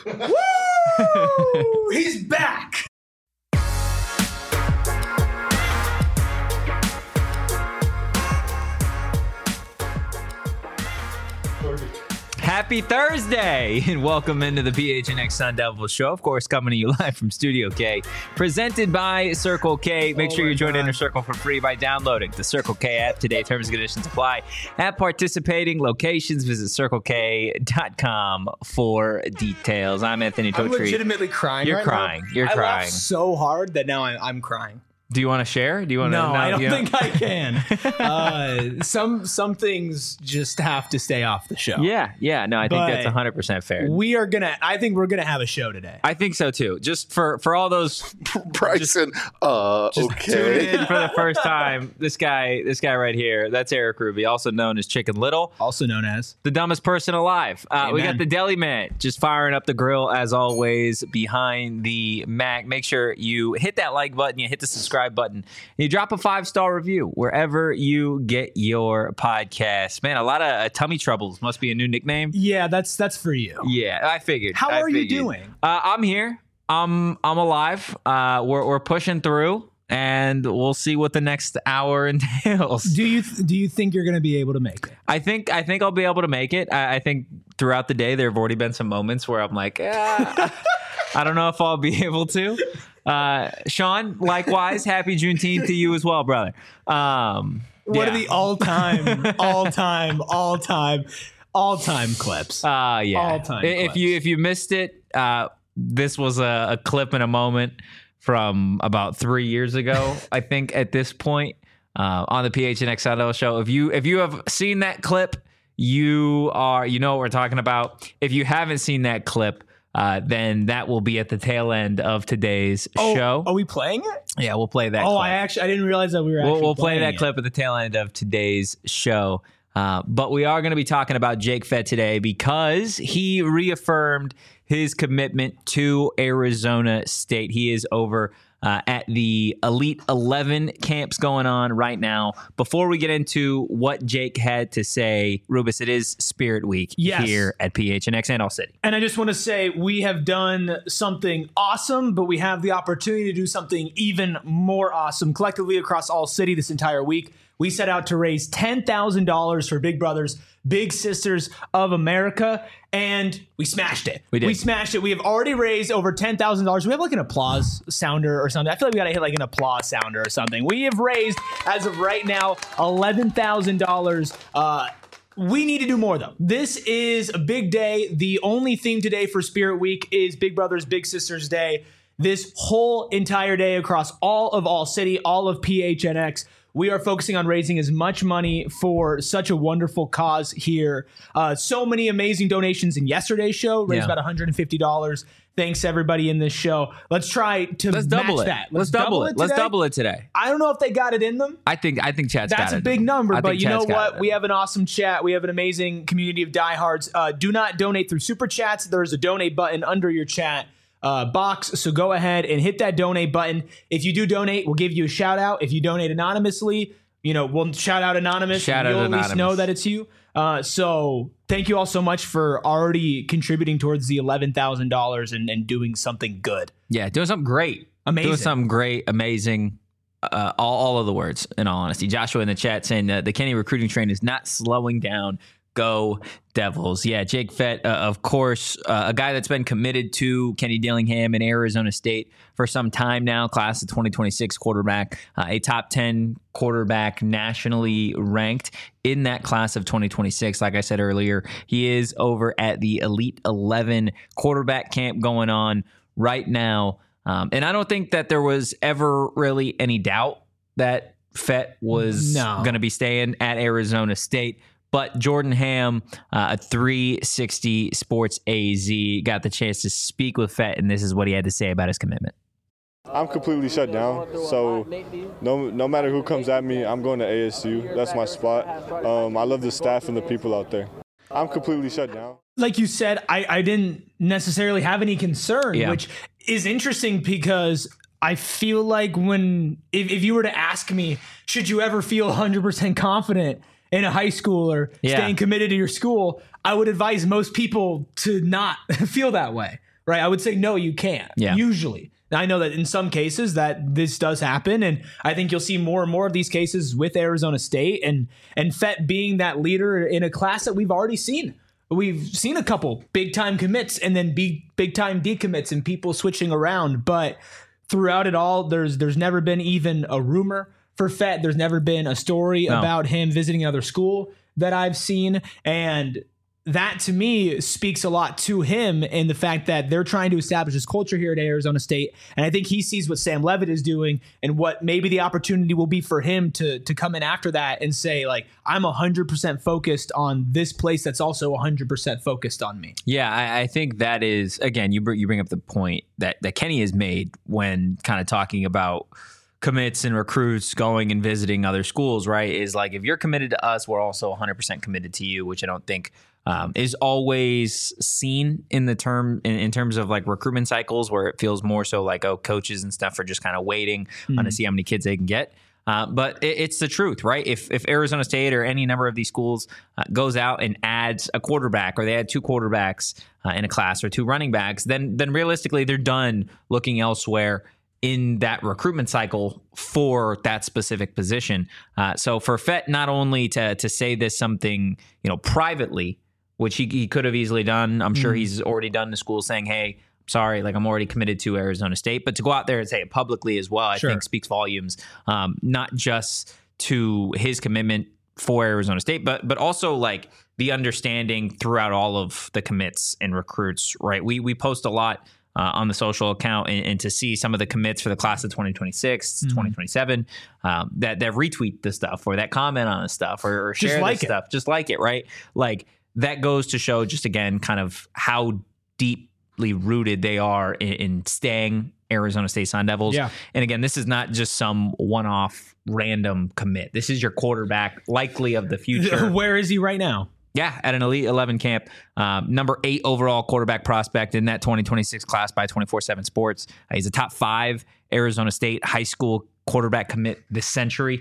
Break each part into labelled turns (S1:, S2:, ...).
S1: Woo! He's back.
S2: Happy Thursday and welcome into the PHNX Sun Devils show. Of course, coming to you live from Studio K, presented by Circle K. Make sure you join Inner Circle for free by downloading the Circle K app today. Terms and conditions apply. At participating locations, visit CircleK.com for details. I'm Anthony Totri.
S1: I'm legitimately crying.
S2: You're
S1: right
S2: crying.
S1: Now.
S2: You're
S1: I
S2: crying.
S1: laughed so hard that now I'm crying.
S2: Do you want to share? Do you want to?
S1: No, I don't think I can. Some things just have to stay off the show.
S2: Yeah. No, I think that's 100% fair.
S1: I think we're gonna have a show today.
S2: I think so too. Just for all those
S3: Bryson. Okay.
S2: Tuned in for the first time. This guy right here. That's Eric Ruby, also known as Chicken Little,
S1: Also known as
S2: the dumbest person alive. We got the Deli Man just firing up the grill as always behind the Mac. Make sure you hit that like button, you hit the subscribe button, and you drop a 5-star review wherever you get your podcast. Man, a lot of tummy troubles must be a new nickname.
S1: Yeah, that's for you.
S2: Yeah, I figured.
S1: How are you doing?
S2: I'm here. I'm alive. We're pushing through, and we'll see what the next hour entails.
S1: Do you think you're going to be able to make it?
S2: I think I'll be able to make it. I think throughout the day there have already been some moments where I'm like, I don't know if I'll be able to. Sean, likewise, happy Juneteenth to you as well, brother.
S1: What are the all-time clips?
S2: Yeah.
S1: All-time
S2: If
S1: clips.
S2: you missed it, this was a clip and a moment from about 3 years ago, I think, at this point, on the PHNX show. If you have seen that clip, you know what we're talking about. If you haven't seen that clip, then that will be at the tail end of today's show.
S1: Are we playing it?
S2: Yeah, we'll play that clip.
S1: I didn't realize that we were actually
S2: We'll play
S1: playing
S2: that
S1: it.
S2: clip at the tail end of today's show. But we are going to be talking about Jake Fett today because he reaffirmed his commitment to Arizona State. He is over at the Elite 11 camps going on right now. Before we get into what Jake had to say, Rubus, it is Spirit Week here at PHNX and All City.
S1: And I just want to say we have done something awesome, but we have the opportunity to do something even more awesome collectively across All City this entire week. We set out to raise $10,000 for Big Brothers, Big Sisters of America, and we smashed it.
S2: We did.
S1: We smashed it. We have already raised over $10,000. We have like an applause sounder or something. I feel like we got to hit like an applause sounder or something. We have raised, as of right now, $11,000. We need to do more, though. This is a big day. The only theme today for Spirit Week is Big Brothers, Big Sisters Day. This whole entire day across all of All City, all of PHNX, we are focusing on raising as much money for such a wonderful cause here. So many amazing donations in yesterday's show. Raised about $150. Thanks to everybody in this show. Let's try to match that.
S2: Let's double it. Let's double it today.
S1: I don't know if they got it in them.
S2: I think chat's got it.
S1: That's a big number, but you know what? We have an awesome chat. We have an amazing community of diehards. Do not donate through super chats. There's a donate button under your chat box. So go ahead and hit that donate button. If you do donate, we'll give you a shout out. If you donate anonymously, we'll shout out anonymous. You'll at least know that it's you. So thank you all so much for already contributing towards the $11,000 and doing something good.
S2: Yeah, doing something great.
S1: Amazing.
S2: Doing something great, amazing. All of the words, in all honesty. Joshua in the chat saying the Kenny recruiting train is not slowing down. Go Devils. Yeah, Jake Fett, of course, a guy that's been committed to Kenny Dillingham and Arizona State for some time now, class of 2026 quarterback, a top 10 quarterback nationally ranked in that class of 2026. Like I said earlier, he is over at the Elite 11 quarterback camp going on right now. And I don't think that there was ever really any doubt that Fett was going to be staying at Arizona State. But Jordan Ham, at 360 Sports AZ, got the chance to speak with Fett, and this is what he had to say about his commitment.
S4: I'm completely shut down, so no matter who comes at me, I'm going to ASU. That's my spot. I love the staff and the people out there. I'm completely shut down.
S1: Like you said, I didn't necessarily have any concern, which is interesting because I feel like if you were to ask me, should you ever feel 100% confident in a high schooler staying committed to your school, I would advise most people to not feel that way. right? I would say, no, you can't, usually. Now, I know that in some cases that this does happen, and I think you'll see more and more of these cases with Arizona State and Fett being that leader in a class that we've already seen. We've seen a couple big-time commits and then big-time decommits and people switching around, but throughout it all, there's never been even a rumor for Fett. There's never been a story about him visiting another school that I've seen, and that to me speaks a lot to him in the fact that they're trying to establish this culture here at Arizona State. And I think he sees what Sam Leavitt is doing and what maybe the opportunity will be for him to come in after that and say, like, I'm 100% focused on this place that's also 100% focused on me.
S2: Yeah, I think that is, again, you bring up the point that Kenny has made when kind of talking about commits and recruits going and visiting other schools, right? Is like, if you're committed to us, we're also 100% committed to you, which I don't think is always seen in the terms of like recruitment cycles, where it feels more so like, oh, coaches and stuff are just kind of waiting on to see how many kids they can get. But it's the truth, right? If Arizona State or any number of these schools goes out and adds a quarterback, or they add 2 quarterbacks in a class or 2 running backs, then realistically they're done looking elsewhere in that recruitment cycle for that specific position. So for Fett not only to say this something, privately, which he could have easily done. I'm sure he's already done to school saying, hey, sorry, like I'm already committed to Arizona State. But to go out there and say it publicly as well, I think speaks volumes, not just to his commitment for Arizona State, but also like the understanding throughout all of the commits and recruits, right? We post a lot on the social account, and to see some of the commits for the class of 2026, 2027, that retweet the stuff or that comment on the stuff or share the stuff, just like it, right? Like, that goes to show just, again, kind of how deeply rooted they are in staying Arizona State Sun Devils. Yeah. And again, this is not just some one-off random commit. This is your quarterback, likely of the future.
S1: Where is he right now?
S2: Yeah, at an Elite 11 camp. Number 8 overall quarterback prospect in that 2026 class by 24/7 Sports. He's a top 5 Arizona State high school quarterback commit this century.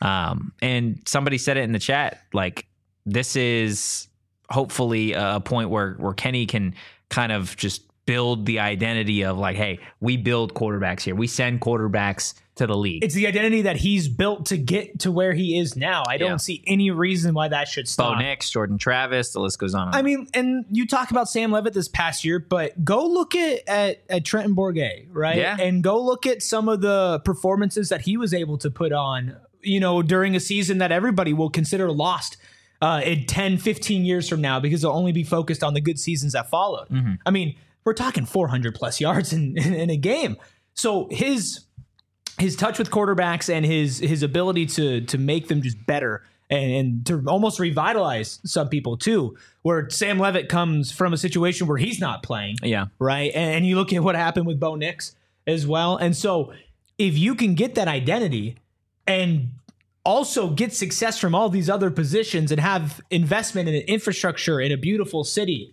S2: And somebody said it in the chat, like, this is hopefully a point where Kenny can kind of just build the identity of like, hey, we build quarterbacks here. We send quarterbacks to the league.
S1: It's the identity that he's built to get to where he is now. I don't see any reason why that should stop.
S2: Bo Nix, Jordan Travis, the list goes on.
S1: I mean, and you talk about Sam Leavitt this past year, but go look at Trenton Bourguet, right?
S2: Yeah.
S1: And go look at some of the performances that he was able to put on, during a season that everybody will consider lost in 10, 15 years from now, because they'll only be focused on the good seasons that followed. I mean, we're talking 400 plus yards in a game. So his touch with quarterbacks and his ability to make them just better and to almost revitalize some people too, where Sam Leavitt comes from a situation where he's not playing.
S2: Yeah.
S1: Right. And you look at what happened with Bo Nix as well. And so if you can get that identity and also get success from all these other positions and have investment in an infrastructure in a beautiful city,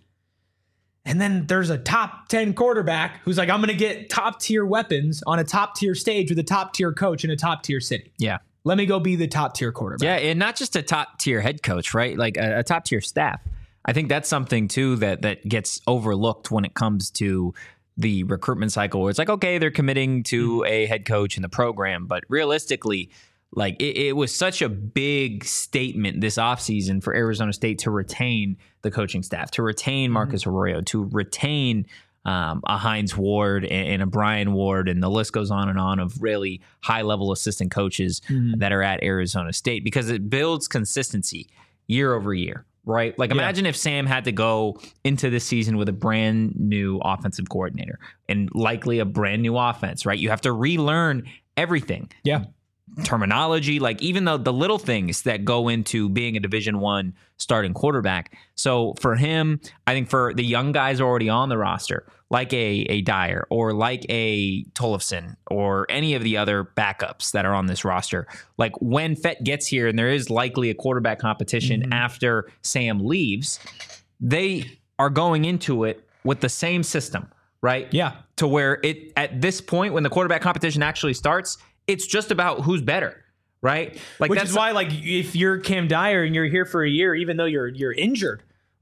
S1: and then there's a top 10 quarterback who's like, I'm going to get top tier weapons on a top tier stage with a top tier coach in a top tier city.
S2: Yeah.
S1: Let me go be the top tier quarterback.
S2: Yeah. And not just a top tier head coach, right? Like a top tier staff. I think that's something too that gets overlooked when it comes to the recruitment cycle, where it's like, okay, they're committing to a head coach in the program, but realistically, like it was such a big statement this offseason for Arizona State to retain the coaching staff, to retain Marcus Arroyo, to retain a Hines Ward and a Brian Ward, and the list goes on and on of really high-level assistant coaches that are at Arizona State, because it builds consistency year over year, right? Like, imagine if Sam had to go into this season with a brand new offensive coordinator and likely a brand new offense, right? You have to relearn everything.
S1: Yeah.
S2: Terminology, like even the little things that go into being a Division I starting quarterback. So for him, I think for the young guys already on the roster, like a Dyer or like a Tollefson or any of the other backups that are on this roster, like when Fett gets here and there is likely a quarterback competition after Sam leaves, they are going into it with the same system, right?
S1: Yeah.
S2: To where it at this point, when the quarterback competition actually starts, it's just about who's better, right? Like,
S1: which is why, like, if you're Cam Dyer and you're here for a year, even though you're injured,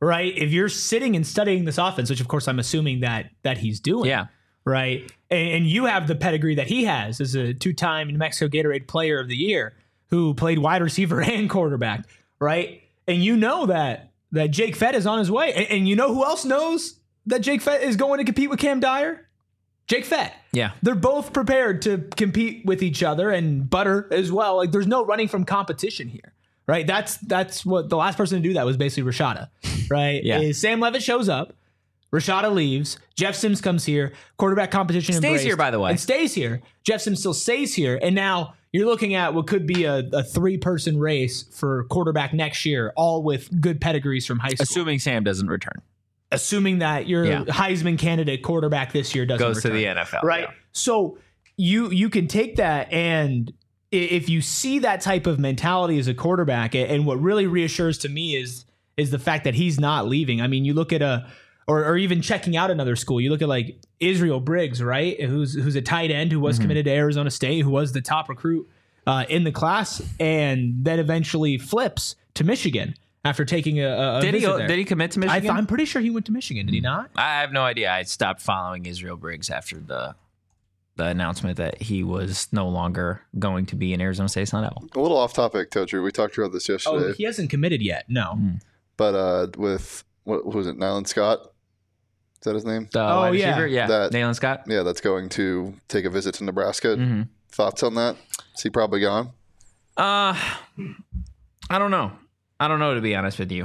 S1: right? If you're sitting and studying this offense, which of course I'm assuming that he's doing,
S2: Yeah.
S1: right? And you have the pedigree that he has as a 2-time New Mexico Gatorade Player of the Year who played wide receiver and quarterback, right? And you know that Jake Fett is on his way. And you know who else knows that Jake Fett is going to compete with Cam Dyer? Jake Fett.
S2: Yeah.
S1: They're both prepared to compete with each other, and Butter as well. Like, there's no running from competition here, right? That's what the last person to do that was basically Rashada, right?
S2: Yeah.
S1: Is Sam Levitt shows up, Rashada leaves, Jeff Sims comes here, quarterback competition
S2: Stays
S1: embraced,
S2: here, by the way.
S1: and stays here. Jeff Sims still stays here, and now you're looking at what could be a 3-person race for quarterback next year, all with good pedigrees from high school.
S2: Assuming Sam doesn't return.
S1: Assuming that your Heisman candidate quarterback this year doesn't
S2: Goes
S1: return,
S2: to the NFL.
S1: right?
S2: Yeah.
S1: So you can take that, and if you see that type of mentality as a quarterback, and what really reassures to me is the fact that he's not leaving. I mean, you look at or even checking out another school. You look at like Israel Briggs, right? Who's a tight end who was committed to Arizona State, who was the top recruit in the class, and then eventually flips to Michigan after taking a visit there.
S2: Did he commit to Michigan?
S1: I'm pretty sure he went to Michigan. Did he not?
S2: I have no idea. I stopped following Israel Briggs after the announcement that he was no longer going to be in Arizona State Sun Devil.
S3: A little off topic, Toadry. We talked about this yesterday.
S1: Oh, he hasn't committed yet. No.
S3: But with, what was it, Nylan Scott? Is that his name?
S2: Wide
S1: yeah.
S2: receiver? Yeah.
S3: That-
S2: Nayland Scott?
S3: Yeah, that's going to take a visit to Nebraska.
S2: Mm-hmm.
S3: Thoughts on that? Is he probably gone?
S2: I don't know. I don't know, to be honest with you.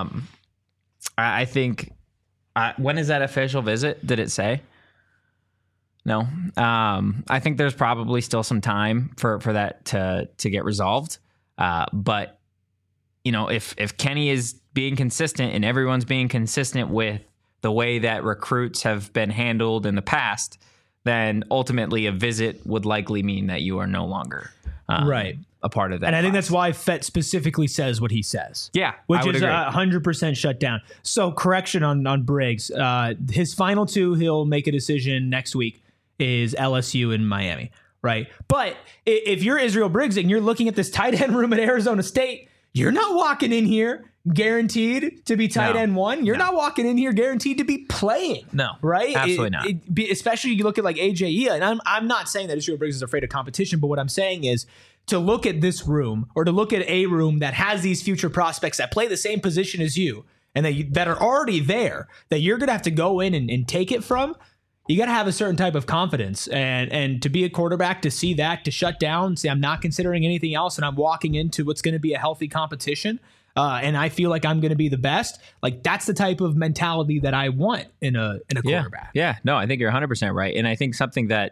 S2: I think when is that official visit? Did it say? No. I think there's probably still some time for that to get resolved. But you know, if Kenny is being consistent and everyone's being consistent with the way that recruits have been handled in the past, then ultimately a visit would likely mean that you are no longer
S1: Right.
S2: a part of that.
S1: And I think
S2: class.
S1: that's why Fett specifically says what he says.
S2: Yeah,
S1: Which
S2: I would
S1: is
S2: agree.
S1: 100% shut down. So correction on Briggs. His final 2, he'll make a decision next week, is LSU and Miami, right? But if you're Israel Briggs and you're looking at this tight end room at Arizona State, you're not walking in here guaranteed to be tight end 1. You're not walking in here guaranteed to be playing.
S2: No,
S1: right?
S2: absolutely not.
S1: Especially you look at like AJ, and I'm not saying that Israel Briggs is afraid of competition, but what I'm saying is to look at this room, or to look at a room that has these future prospects that play the same position as you and that are already there, that you're going to have to go in and take it from. You got to have a certain type of confidence, and to be a quarterback, to see that, to shut down, say I'm not considering anything else, and I'm walking into what's going to be a healthy competition, and I feel like I'm going to be the best. Like, that's the type of mentality that I want in a quarterback.
S2: Yeah, no, I think you're 100% right, and I think something that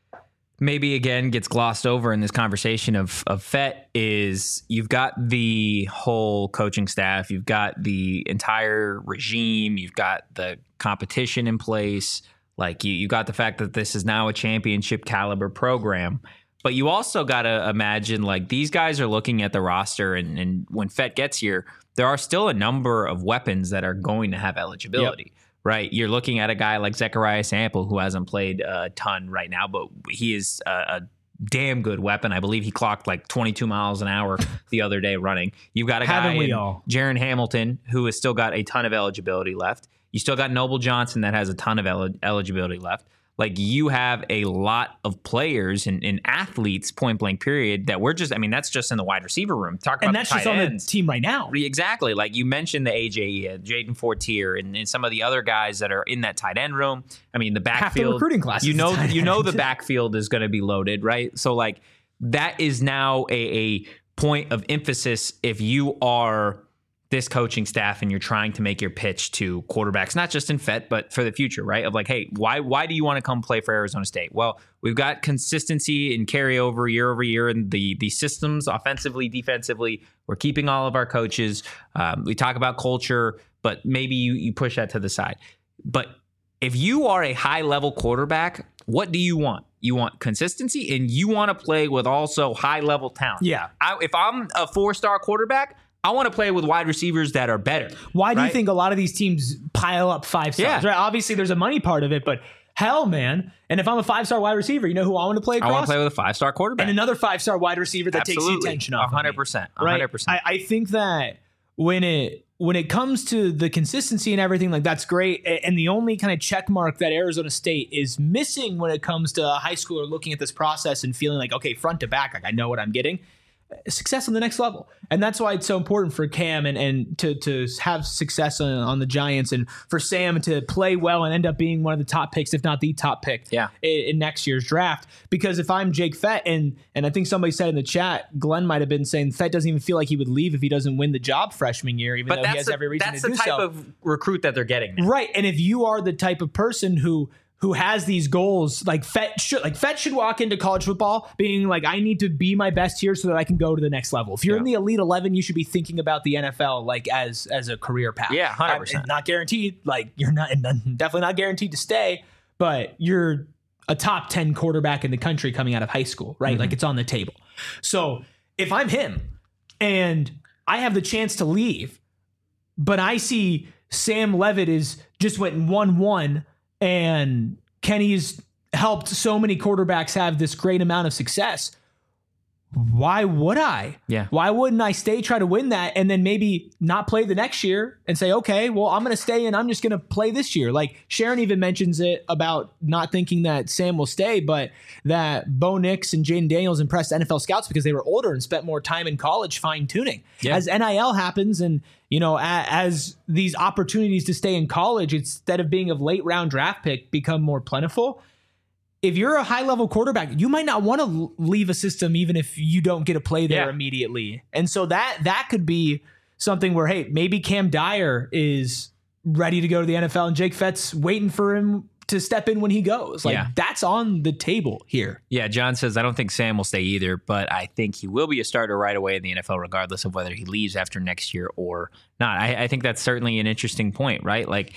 S2: maybe again gets glossed over in this conversation of Fett is you've got the whole coaching staff, you've got the entire regime, you've got the competition in place. Like you got the fact that this is now a championship caliber program, but you also got to imagine like these guys are looking at the roster, and when Fett gets here, there are still a number of weapons that are going to have eligibility, right? You're looking at a guy like Zechariah Sample, who hasn't played a ton right now, but he is a damn good weapon. I believe he clocked like 22 miles an hour the other day running. You've got a guy, Jaron Hamilton, who has still got a ton of eligibility left. You still got Noble Johnson that has a ton of eligibility left. Like you have a lot of players and athletes, point blank period, that we're just, I mean, that's just in the wide receiver room. Talk about
S1: and that's
S2: the
S1: just
S2: tight
S1: on
S2: ends.
S1: the team right now.
S2: Exactly. Like you mentioned the AJ, Jaden Fortier, and some of the other guys that are in that tight end room. I mean, the backfield.
S1: Half the recruiting class.
S2: You know the backfield is going to be loaded, right? So like that is now a point of emphasis if you are this coaching staff and you're trying to make your pitch to quarterbacks, not just in Fett, but for the future, right? Of like, hey, why do you want to come play for Arizona State? Well, we've got consistency and carryover year over year in the systems, offensively, defensively. We're keeping all of our coaches. We talk about culture, but maybe you push that to the side. But if you are a high-level quarterback, what do you want? You want consistency, and you want to play with also high-level talent.
S1: Yeah.
S2: If I'm a 4-star quarterback, I want to play with wide receivers that are better.
S1: Why do you think a lot of these teams pile up 5 stars? Right? Obviously, there's a money part of it, but hell, man. And if I'm a 5-star wide receiver, you know who I want to play across?
S2: I want to play with a 5-star quarterback.
S1: And another 5-star wide receiver that takes the attention off
S2: 100%.
S1: Right?
S2: 100%.
S1: I think that when it comes to the consistency and everything, like that's great. And the only kind of check mark that Arizona State is missing when it comes to high school or looking at this process and feeling like, okay, front to back, like I know what I'm getting. Success on the next level. And that's why it's so important for Cam and to have success on the Giants, and for Sam to play well and end up being one of the top picks, if not the top pick in next year's draft. Because if I'm Jake Fett, and I think somebody said in the chat, Glenn might have been saying Fett doesn't even feel like he would leave if he doesn't win the job freshman year, even though he has every reason to do so.
S2: That's the type of recruit that they're getting now.
S1: Right. And if you are the type of person who has these goals, like Fett should walk into college football being like, I need to be my best here so that I can go to the next level. If you're in the Elite 11, you should be thinking about the NFL like as a career path.
S2: Yeah, 100%.
S1: Not guaranteed. Like you're definitely not guaranteed to stay, but you're a top 10 quarterback in the country coming out of high school, right? Mm-hmm. Like it's on the table. So if I'm him and I have the chance to leave, but I see Sam Leavitt just went 1-1, and Kenny's helped so many quarterbacks have this great amount of success. Why would I?
S2: Yeah.
S1: Why wouldn't I stay, try to win that, and then maybe not play the next year and say, okay, well, I'm going to stay and I'm just going to play this year. Like Sharon even mentions it about not thinking that Sam will stay, but that Bo Nix and Jaden Daniels impressed NFL scouts because they were older and spent more time in college fine tuning. Yeah. As NIL happens and, as these opportunities to stay in college, instead of being a late round draft pick, become more plentiful. If you're a high-level quarterback, you might not want to leave a system even if you don't get to play there immediately. And so that could be something where, hey, maybe Cam Dyer is ready to go to the NFL and Jake Fett's waiting for him to step in when he goes. That's on the table here.
S2: Yeah, John says, I don't think Sam will stay either, but I think he will be a starter right away in the NFL regardless of whether he leaves after next year or not. I think that's certainly an interesting point, right? Like,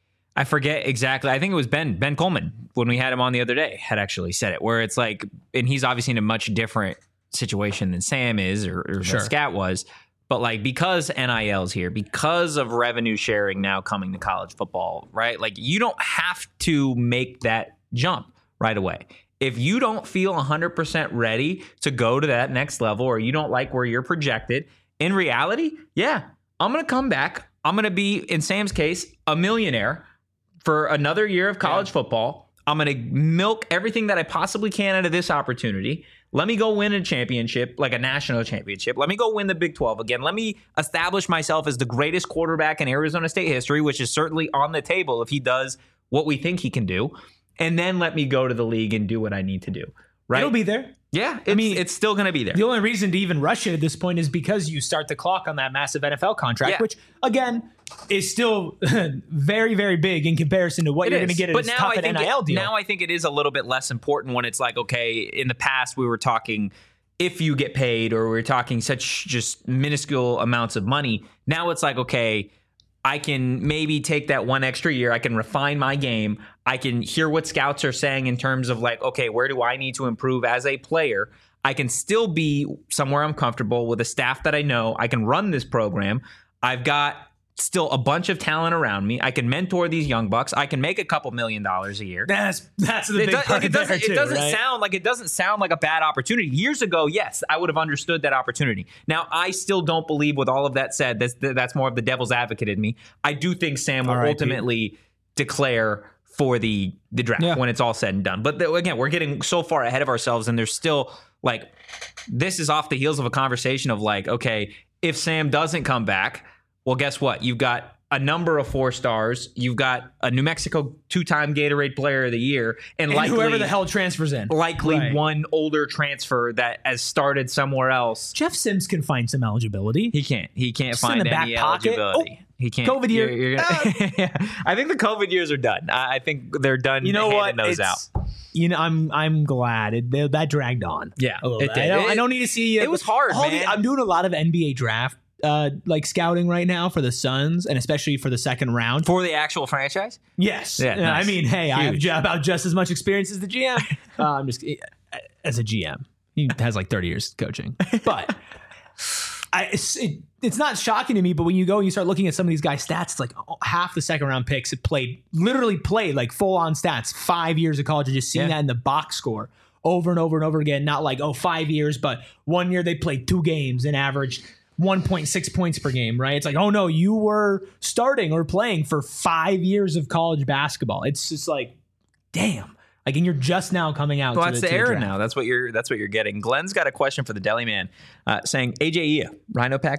S2: I forget exactly. I think it was Ben Coleman when we had him on the other day had actually said it, where it's like, and he's obviously in a much different situation than Sam is or Scat was, but like because NIL's here, because of revenue sharing now coming to college football, right? Like you don't have to make that jump right away. If you don't feel 100% ready to go to that next level, or you don't like where you're projected, in reality, I'm going to come back. I'm going to be, in Sam's case, a millionaire for another year of college football. I'm going to milk everything that I possibly can out of this opportunity. Let me go win a championship, like a national championship. Let me go win the Big 12 again. Let me establish myself as the greatest quarterback in Arizona State history, which is certainly on the table if he does what we think he can do. And then let me go to the league and do what I need to do. Right?
S1: It'll be there.
S2: Yeah, it's still going to be there.
S1: The only reason to even rush it at this point is because you start the clock on that massive NFL contract, which, again, is still very, very big in comparison to what you're going to get in a top NIL deal.
S2: Now I think it is a little bit less important when it's like, okay, in the past we were talking if you get paid, or we were talking such just minuscule amounts of money. Now it's like, okay, I can maybe take that one extra year. I can refine my game. I can hear what scouts are saying in terms of like, okay, where do I need to improve as a player? I can still be somewhere I'm comfortable with a staff that I know. I can run this program. I've got still a bunch of talent around me. I can mentor these young bucks. I can make a couple $1 million a year.
S1: That's the big part. It
S2: doesn't sound like a bad opportunity. Years ago, yes, I would have understood that opportunity. Now, I still don't believe, with all of that said, that's more of the devil's advocate in me. I do think Sam will ultimately declare for the draft when it's all said and done. But again, we're getting so far ahead of ourselves, and there's still like, this is off the heels of a conversation of like, okay, if Sam doesn't come back, well, guess what? You've got a number of 4 stars. You've got a New Mexico 2-time Gatorade Player of the Year, and likely
S1: whoever the hell transfers in,
S2: one older transfer that has started somewhere else.
S1: Jeff Sims can find some eligibility.
S2: He can't. He can't find any eligibility. He can't.
S1: COVID year.
S2: I think the COVID years are done. I think they're done. You know what? Those out.
S1: I'm glad that dragged on.
S2: Yeah,
S1: it did. I don't need to see.
S2: It was hard, man.
S1: I'm doing a lot of NBA draft scouting right now for the Suns, and especially for the second round
S2: for the actual franchise.
S1: Yes. Yeah, nice. I mean, hey, huge. I have about just as much experience as the GM. I'm just as a GM. He has like 30 years coaching, but it's not shocking to me. But when you go and you start looking at some of these guys' stats, it's like half the second round picks had literally played like full on stats 5 years of college, and just seeing that in the box score over and over and over again. Not like 5 years, but 1 year they played 2 games and averaged 1.6 points per game, right? It's like, oh no, you were starting or playing for 5 years of college basketball. It's just like, damn. Like, and you're just now coming out.
S2: Well,
S1: to
S2: that's
S1: the
S2: the era
S1: draft.
S2: now. That's what you're getting. Glenn's got a question for the Deli Man, saying AJ Ia, Rhino package ?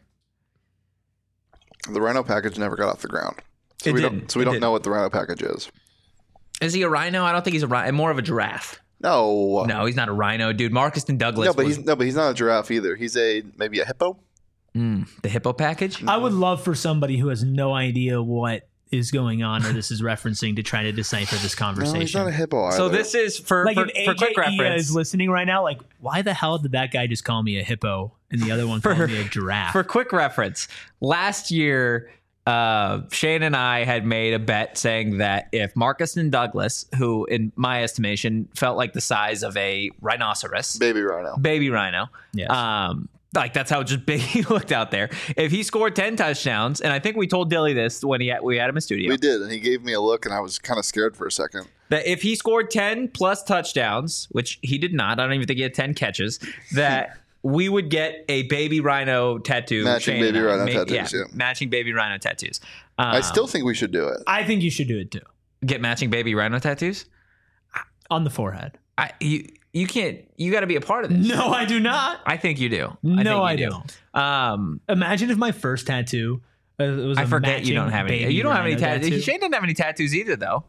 S3: The Rhino package never got off the ground. So
S2: It
S3: we
S2: didn't.
S3: don't
S2: It
S3: know what the Rhino package is.
S2: Is he a rhino? I don't think he's a rhino. More of a giraffe.
S3: No.
S2: No, he's not a rhino, dude. Marcuston Douglas.
S3: No, but he's not a giraffe either. He's maybe a hippo.
S2: The hippo package.
S1: I would love for somebody who has no idea what is going on or this is referencing to try to decipher this conversation.
S3: No, he's not a hippo either.
S2: So this is for
S1: Like,
S2: quick
S1: if AJ
S2: reference.
S1: is listening right now, like, why the hell did that guy just call me a hippo and the other one called me a giraffe?
S2: For quick reference, last year, Shane and I had made a bet saying that if Marcuston Douglas, who in my estimation felt like the size of a rhinoceros,
S3: baby rhino.
S1: Yes.
S2: like that's how just big he looked out there. If he scored 10 touchdowns, and I think we told Dilly this when we had him in studio.
S3: We did, and he gave me a look, and I was kind of scared for a second.
S2: That if he scored 10 plus touchdowns, which he did not, I don't even think he had 10 catches, that we would get a baby rhino tattoo.
S3: Matching
S2: Shane
S3: baby
S2: and I.
S3: rhino tattoos, yeah.
S2: Matching baby rhino tattoos.
S3: I still think we should do it.
S1: I think you should do it too.
S2: Get matching baby rhino tattoos?
S1: On the forehead.
S2: You can't, you got to be a part of this.
S1: No, I do not.
S2: I think you do.
S1: No,
S2: I
S1: I
S2: think you do.
S1: Imagine if my first tattoo was
S2: I
S1: a
S2: forget you don't have any.
S1: baby
S2: You don't have any
S1: rhino
S2: tattoos. Shane didn't have any tattoos either, though.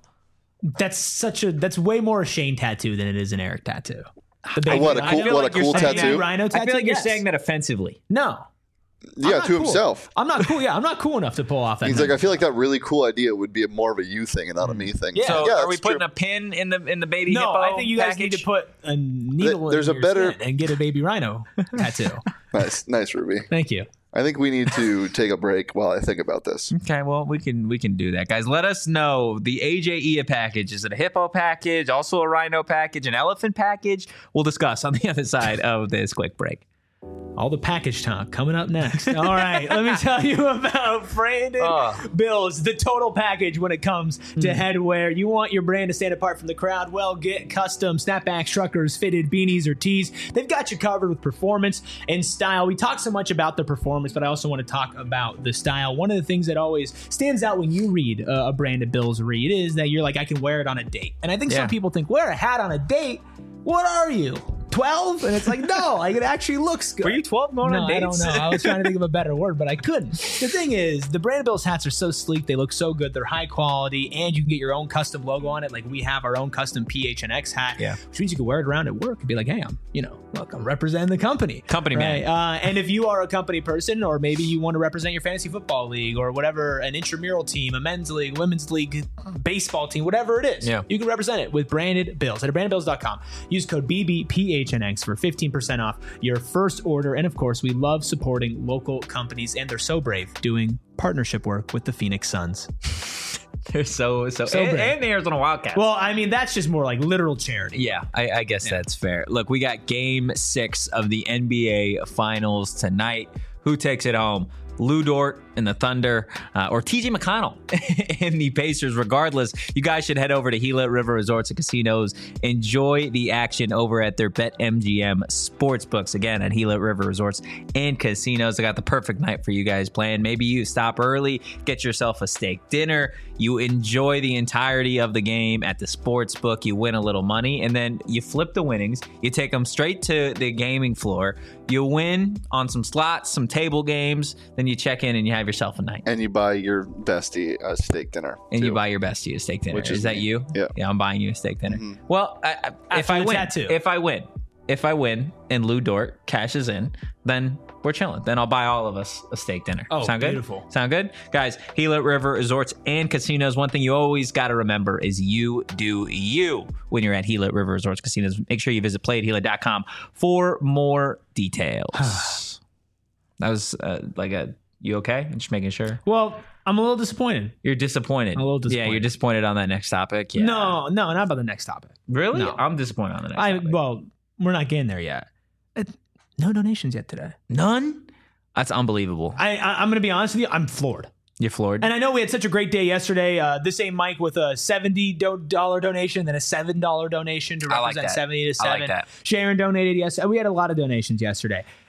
S1: That's way more a Shane tattoo than it is an Eric tattoo. The baby
S3: What a
S1: rhino-
S3: cool, what a cool
S1: baby
S3: tattoo!
S1: rhino tattoo.
S2: I feel like you're
S1: yes.
S2: saying that offensively.
S1: No.
S3: Yeah,
S1: I'm not
S3: to
S1: cool.
S3: himself.
S1: I'm not cool. Yeah, I'm not cool enough to pull off that.
S3: He's like, I feel like that really cool idea would be more of a you thing and not a me thing.
S1: Yeah.
S2: So
S3: yeah,
S2: are we
S3: that's
S2: putting
S3: true.
S2: a pin in the baby
S1: no,
S2: hippo
S1: I think you guys need to
S2: package?
S1: put a needle
S3: There's
S1: in
S3: a
S1: your
S3: better-
S1: skin and get a baby rhino tattoo.
S3: Nice, Ruby.
S1: Thank you.
S3: I think we need to take a break while I think about this.
S2: Okay, well, we can do that, guys. Let us know the AJ Ia package. Is it a hippo package, also a rhino package, an elephant package? We'll discuss on the other side of this quick break.
S1: All the package talk coming up next. All right, let me tell you about Brandon Bills, the total package when it comes to headwear. You want your brand to stand apart from the crowd? Well, get custom snapbacks, truckers, fitted beanies, or tees. They've got you covered with performance and style. We talk so much about the performance, but I also want to talk about the style. One of the things that always stands out when you read a Brandon Bills read is that you're like, I can wear it on a date. And I think some people think, wear a hat on a date? What are you? 12? And it's like, no, like it actually looks good.
S2: Were you 12 going on dates?
S1: I don't know. I was trying to think of a better word, but I couldn't. The thing is, the Brandon Bills hats are so sleek. They look so good. They're high quality, and you can get your own custom logo on it. Like we have our own custom PHNX hat, which means you can wear it around at work and be like, hey, I'm representing the company.
S2: Company man.
S1: And if you are a company person, or maybe you want to represent your fantasy football league or whatever, an intramural team, a men's league, women's league, baseball team, whatever it is, you can represent it with Branded Bills. Head to brandedbills.com. Use code BBPHNX for 15% off your first order. And of course, we love supporting local companies, and they're so brave doing partnership work with the Phoenix Suns.
S2: They're so
S1: brave.
S2: and the Arizona Wildcats.
S1: Well, I mean, that's just more like literal charity.
S2: Yeah, I guess that's fair. Look, we got game 6 of the NBA Finals tonight. Who takes it home? Lou Dort and the Thunder, or TJ McConnell and the Pacers. Regardless, you guys should head over to Gila River Resorts and Casinos. Enjoy the action over at their BetMGM Sportsbooks. Again, at Gila River Resorts and Casinos. They got the perfect night for you guys playing. Maybe you stop early, get yourself a steak dinner. You enjoy the entirety of the game at the sportsbook. You win a little money, and then you flip the winnings. You take them straight to the gaming floor. You win on some slots, some table games. Then you check in and you have yourself a night.
S3: And you buy your bestie a steak dinner.
S2: And
S3: too.
S2: you buy your bestie a steak dinner.
S3: Which
S2: is that
S3: me.
S2: you?
S3: Yeah.
S2: Yeah, I'm buying you a steak dinner.
S3: Mm-hmm.
S2: Well, if I win and Lou Dort cashes in, then we're chilling. Then I'll buy all of us a steak dinner.
S1: Oh,
S2: Sound good?
S1: beautiful.
S2: Sound good? Guys, Gila River Resorts and Casinos. One thing you always got to remember is you do you when you're at Gila River Resorts Casinos. Make sure you visit playatgila.com for more details. That was you okay? I'm just making sure.
S1: Well, I'm a little disappointed.
S2: You're disappointed.
S1: A little disappointed.
S2: Yeah, you're disappointed on that next topic. Yeah.
S1: No, not about the next topic.
S2: Really?
S1: No.
S2: I'm disappointed on the next topic.
S1: Well, we're not getting there yet. No donations yet today.
S2: None? That's unbelievable.
S1: I'm going to be honest with you. I'm floored.
S2: You're floored?
S1: And I know we had such a great day yesterday. This ain't Mike with a $70 donation, then a $7 donation to
S2: I like
S1: represent
S2: that.
S1: 70 to 7.
S2: I like that.
S1: Sharon donated yesterday. We had a lot of donations yesterday.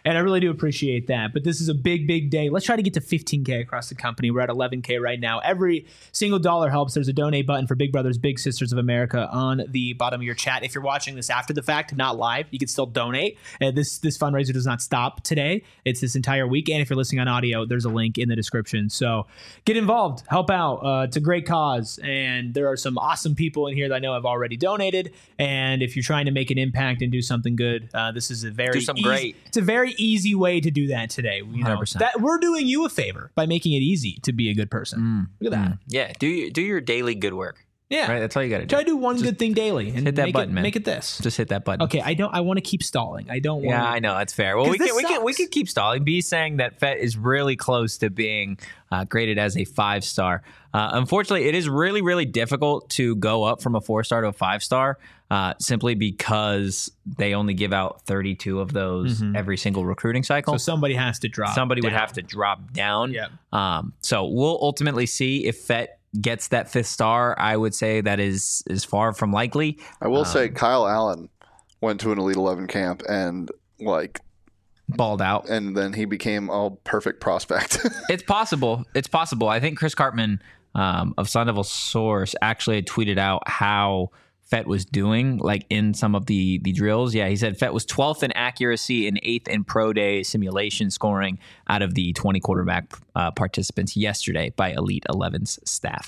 S1: And I really do appreciate that. But this is a big, big day. Let's try to get to 15K across the company. We're at 11K right now. Every single dollar helps. There's a donate button for Big Brothers Big Sisters of America on the bottom of your chat. If you're watching this after the fact, not live, you can still donate. This fundraiser does not stop today. It's this entire week. And if you're listening on audio, there's a link in the description. So get involved. Help out. It's a great cause. And there are some awesome people in here that I know have already donated. And if you're trying to make an impact and do something good, this is a very
S2: great.
S1: It's a very easy way to do that today. You know,
S2: 100%.
S1: that we're doing you a favor by making it easy to be a good person. Look at that.
S2: Yeah, do your daily good work.
S1: Yeah,
S2: Right, that's all you got to do.
S1: Try to do one good thing daily and
S2: hit that
S1: make
S2: button,
S1: it,
S2: man.
S1: Make it this.
S2: Just hit that button.
S1: Okay, I want to keep stalling. I don't want.
S2: Yeah, I know that's fair. Well,
S1: 'Cause
S2: we can keep stalling. B saying that Fett is really close to being graded as a 5-star. Unfortunately, it is really, really difficult to go up from a 4-star to a 5-star simply because they only give out 32 of those every single recruiting cycle.
S1: So somebody has to drop.
S2: Somebody would
S1: down.
S2: have to drop down.
S1: Yeah.
S2: So we'll ultimately see if Fett gets that 5th star. I would say that is far from likely.
S3: I will say Kyle Allen went to an Elite 11 camp and
S2: Balled out.
S3: and then he became a perfect prospect.
S2: It's possible. It's possible. I think Chris Cartman of Sun Devil Source actually had tweeted out how Fett was doing, like in some of the drills. Yeah, he said Fett was 12th in accuracy and 8th in pro day simulation scoring out of the 20 quarterback participants yesterday by Elite 11's staff.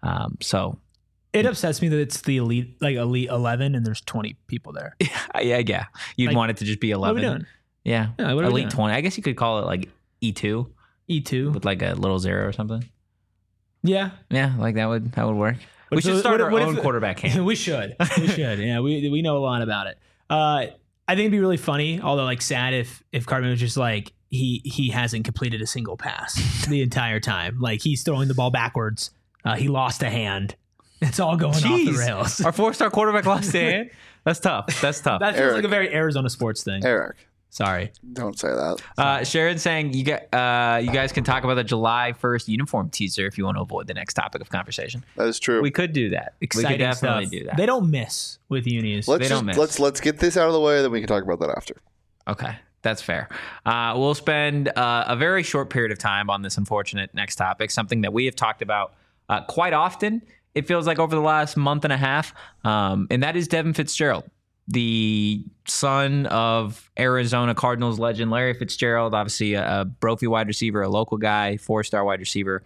S2: So
S1: It upsets me that it's the elite 11 and there's 20 people there.
S2: yeah. You'd want it to just be 11.
S1: What are we doing?
S2: Yeah,
S1: Yeah, what are we
S2: Elite
S1: doing?
S2: 20. I guess you could call it like E2
S1: E2.
S2: with like a little 0 or something.
S1: Yeah.
S2: Yeah, like that would work. We
S1: What-
S2: should start
S1: what-
S2: our
S1: what
S2: own
S1: if-
S2: quarterback camp.
S1: We should. Yeah, we know a lot about it. I think it'd be really funny, although like sad if Cartman was just like he hasn't completed a single pass the entire time. Like he's throwing the ball backwards. He lost a hand. It's all going off the
S2: Jeez.
S1: rails.
S2: Our 4-star quarterback lost a hand. That's tough. That's tough.
S1: That feels
S3: Eric.
S1: like a very Arizona sports thing.
S3: Eric,
S1: Sorry.
S3: don't say that.
S2: Sharon saying you guys can talk about the July 1st uniform teaser if you want to avoid the next topic of conversation.
S3: That is true.
S2: We could do that.
S1: Exciting
S2: we could definitely
S1: stuff.
S2: do that.
S1: They don't miss with unis.
S3: let's
S2: they don't
S3: just
S2: miss.
S3: let's get this out of the way, then we can talk about that after.
S2: Okay, that's fair. We'll spend a very short period of time on this unfortunate next topic, something that we have talked about quite often. It feels like over the last month and a half, and that is Devin Fitzgerald, the son of Arizona Cardinals legend Larry Fitzgerald, obviously a Brophy wide receiver, a local guy, 4-star wide receiver.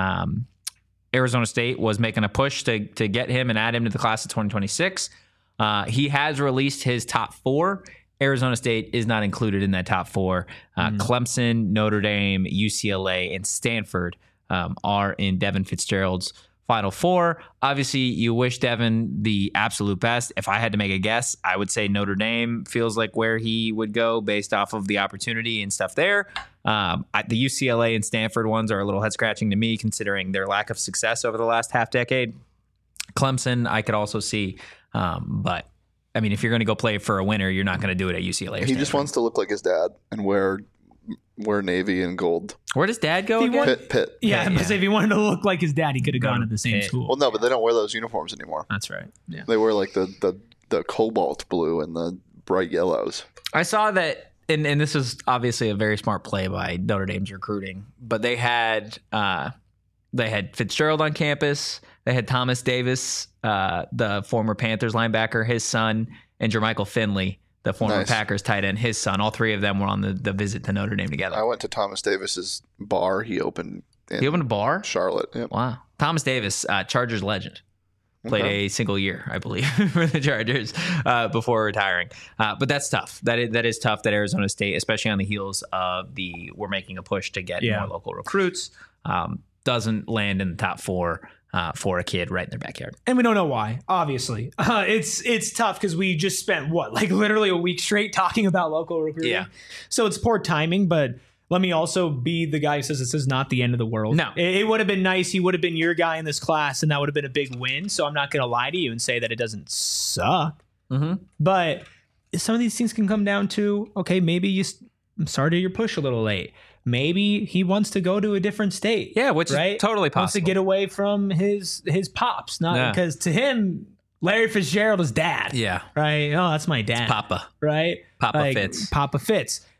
S2: Arizona State was making a push to get him and add him to the class of 2026. He has released his top 4. Arizona State is not included in that top 4. Clemson, Notre Dame, UCLA, and Stanford are in Devin Fitzgerald's Final 4. Obviously, you wish Devin the absolute best. If I had to make a guess, I would say Notre Dame feels like where he would go based off of the opportunity and stuff there. The UCLA and Stanford ones are a little head-scratching to me, considering their lack of success over the last half-decade. Clemson, I could also see, but I mean, if you're going to go play for a winner, you're not going to do it at UCLA. Or
S3: He
S2: Stanford.
S3: just wants to look like his dad and wear navy and gold.
S2: Where does Dad go
S1: He
S2: again?
S1: won-
S3: Pitt.
S1: Yeah,
S2: Yeah.
S1: but if he wanted to look like his dad, he could have gone to the same
S2: Pitt.
S1: school.
S3: Well, no, but they don't wear those uniforms anymore.
S1: That's right. Yeah.
S3: They wear like the cobalt blue and the bright yellows.
S2: I saw that, and this is obviously a very smart play by Notre Dame's recruiting, but they had Fitzgerald on campus. They had Thomas Davis, the former Panthers linebacker, his son, and Jermichael Finley, the former
S3: Nice.
S2: Packers tight end, his son. All 3 of them were on the visit to Notre Dame together.
S3: I went to Thomas Davis's bar he opened in
S2: He opened a bar?
S3: Charlotte. Yep.
S2: Wow. Thomas Davis, Chargers legend. Played a single year, I believe, for the Chargers before retiring. But that's tough. That is tough that Arizona State, especially on the heels of we're making a push to get more local recruits, doesn't land in the top 4 for a kid right in their backyard.
S1: And we don't know why, obviously. It's tough because we just spent, literally a week straight talking about local recruiting.
S2: Yeah.
S1: So it's poor timing, but let me also be the guy who says this is not the end of the world.
S2: No.
S1: It would have been nice. He would have been your guy in this class, and that would have been a big win. So I'm not going to lie to you and say that it doesn't suck.
S2: Mm-hmm.
S1: But some of these things can come down to, okay, maybe you started your push a little late. Maybe he wants to go to a different state.
S2: Yeah, which
S1: right?
S2: is totally possible.
S1: Wants to get away from his pops, not because to him, Larry Fitzgerald is dad.
S2: Yeah.
S1: Right. Oh, that's my dad.
S2: Papa.
S1: Right.
S2: Papa Fitz.
S1: Papa Fitz.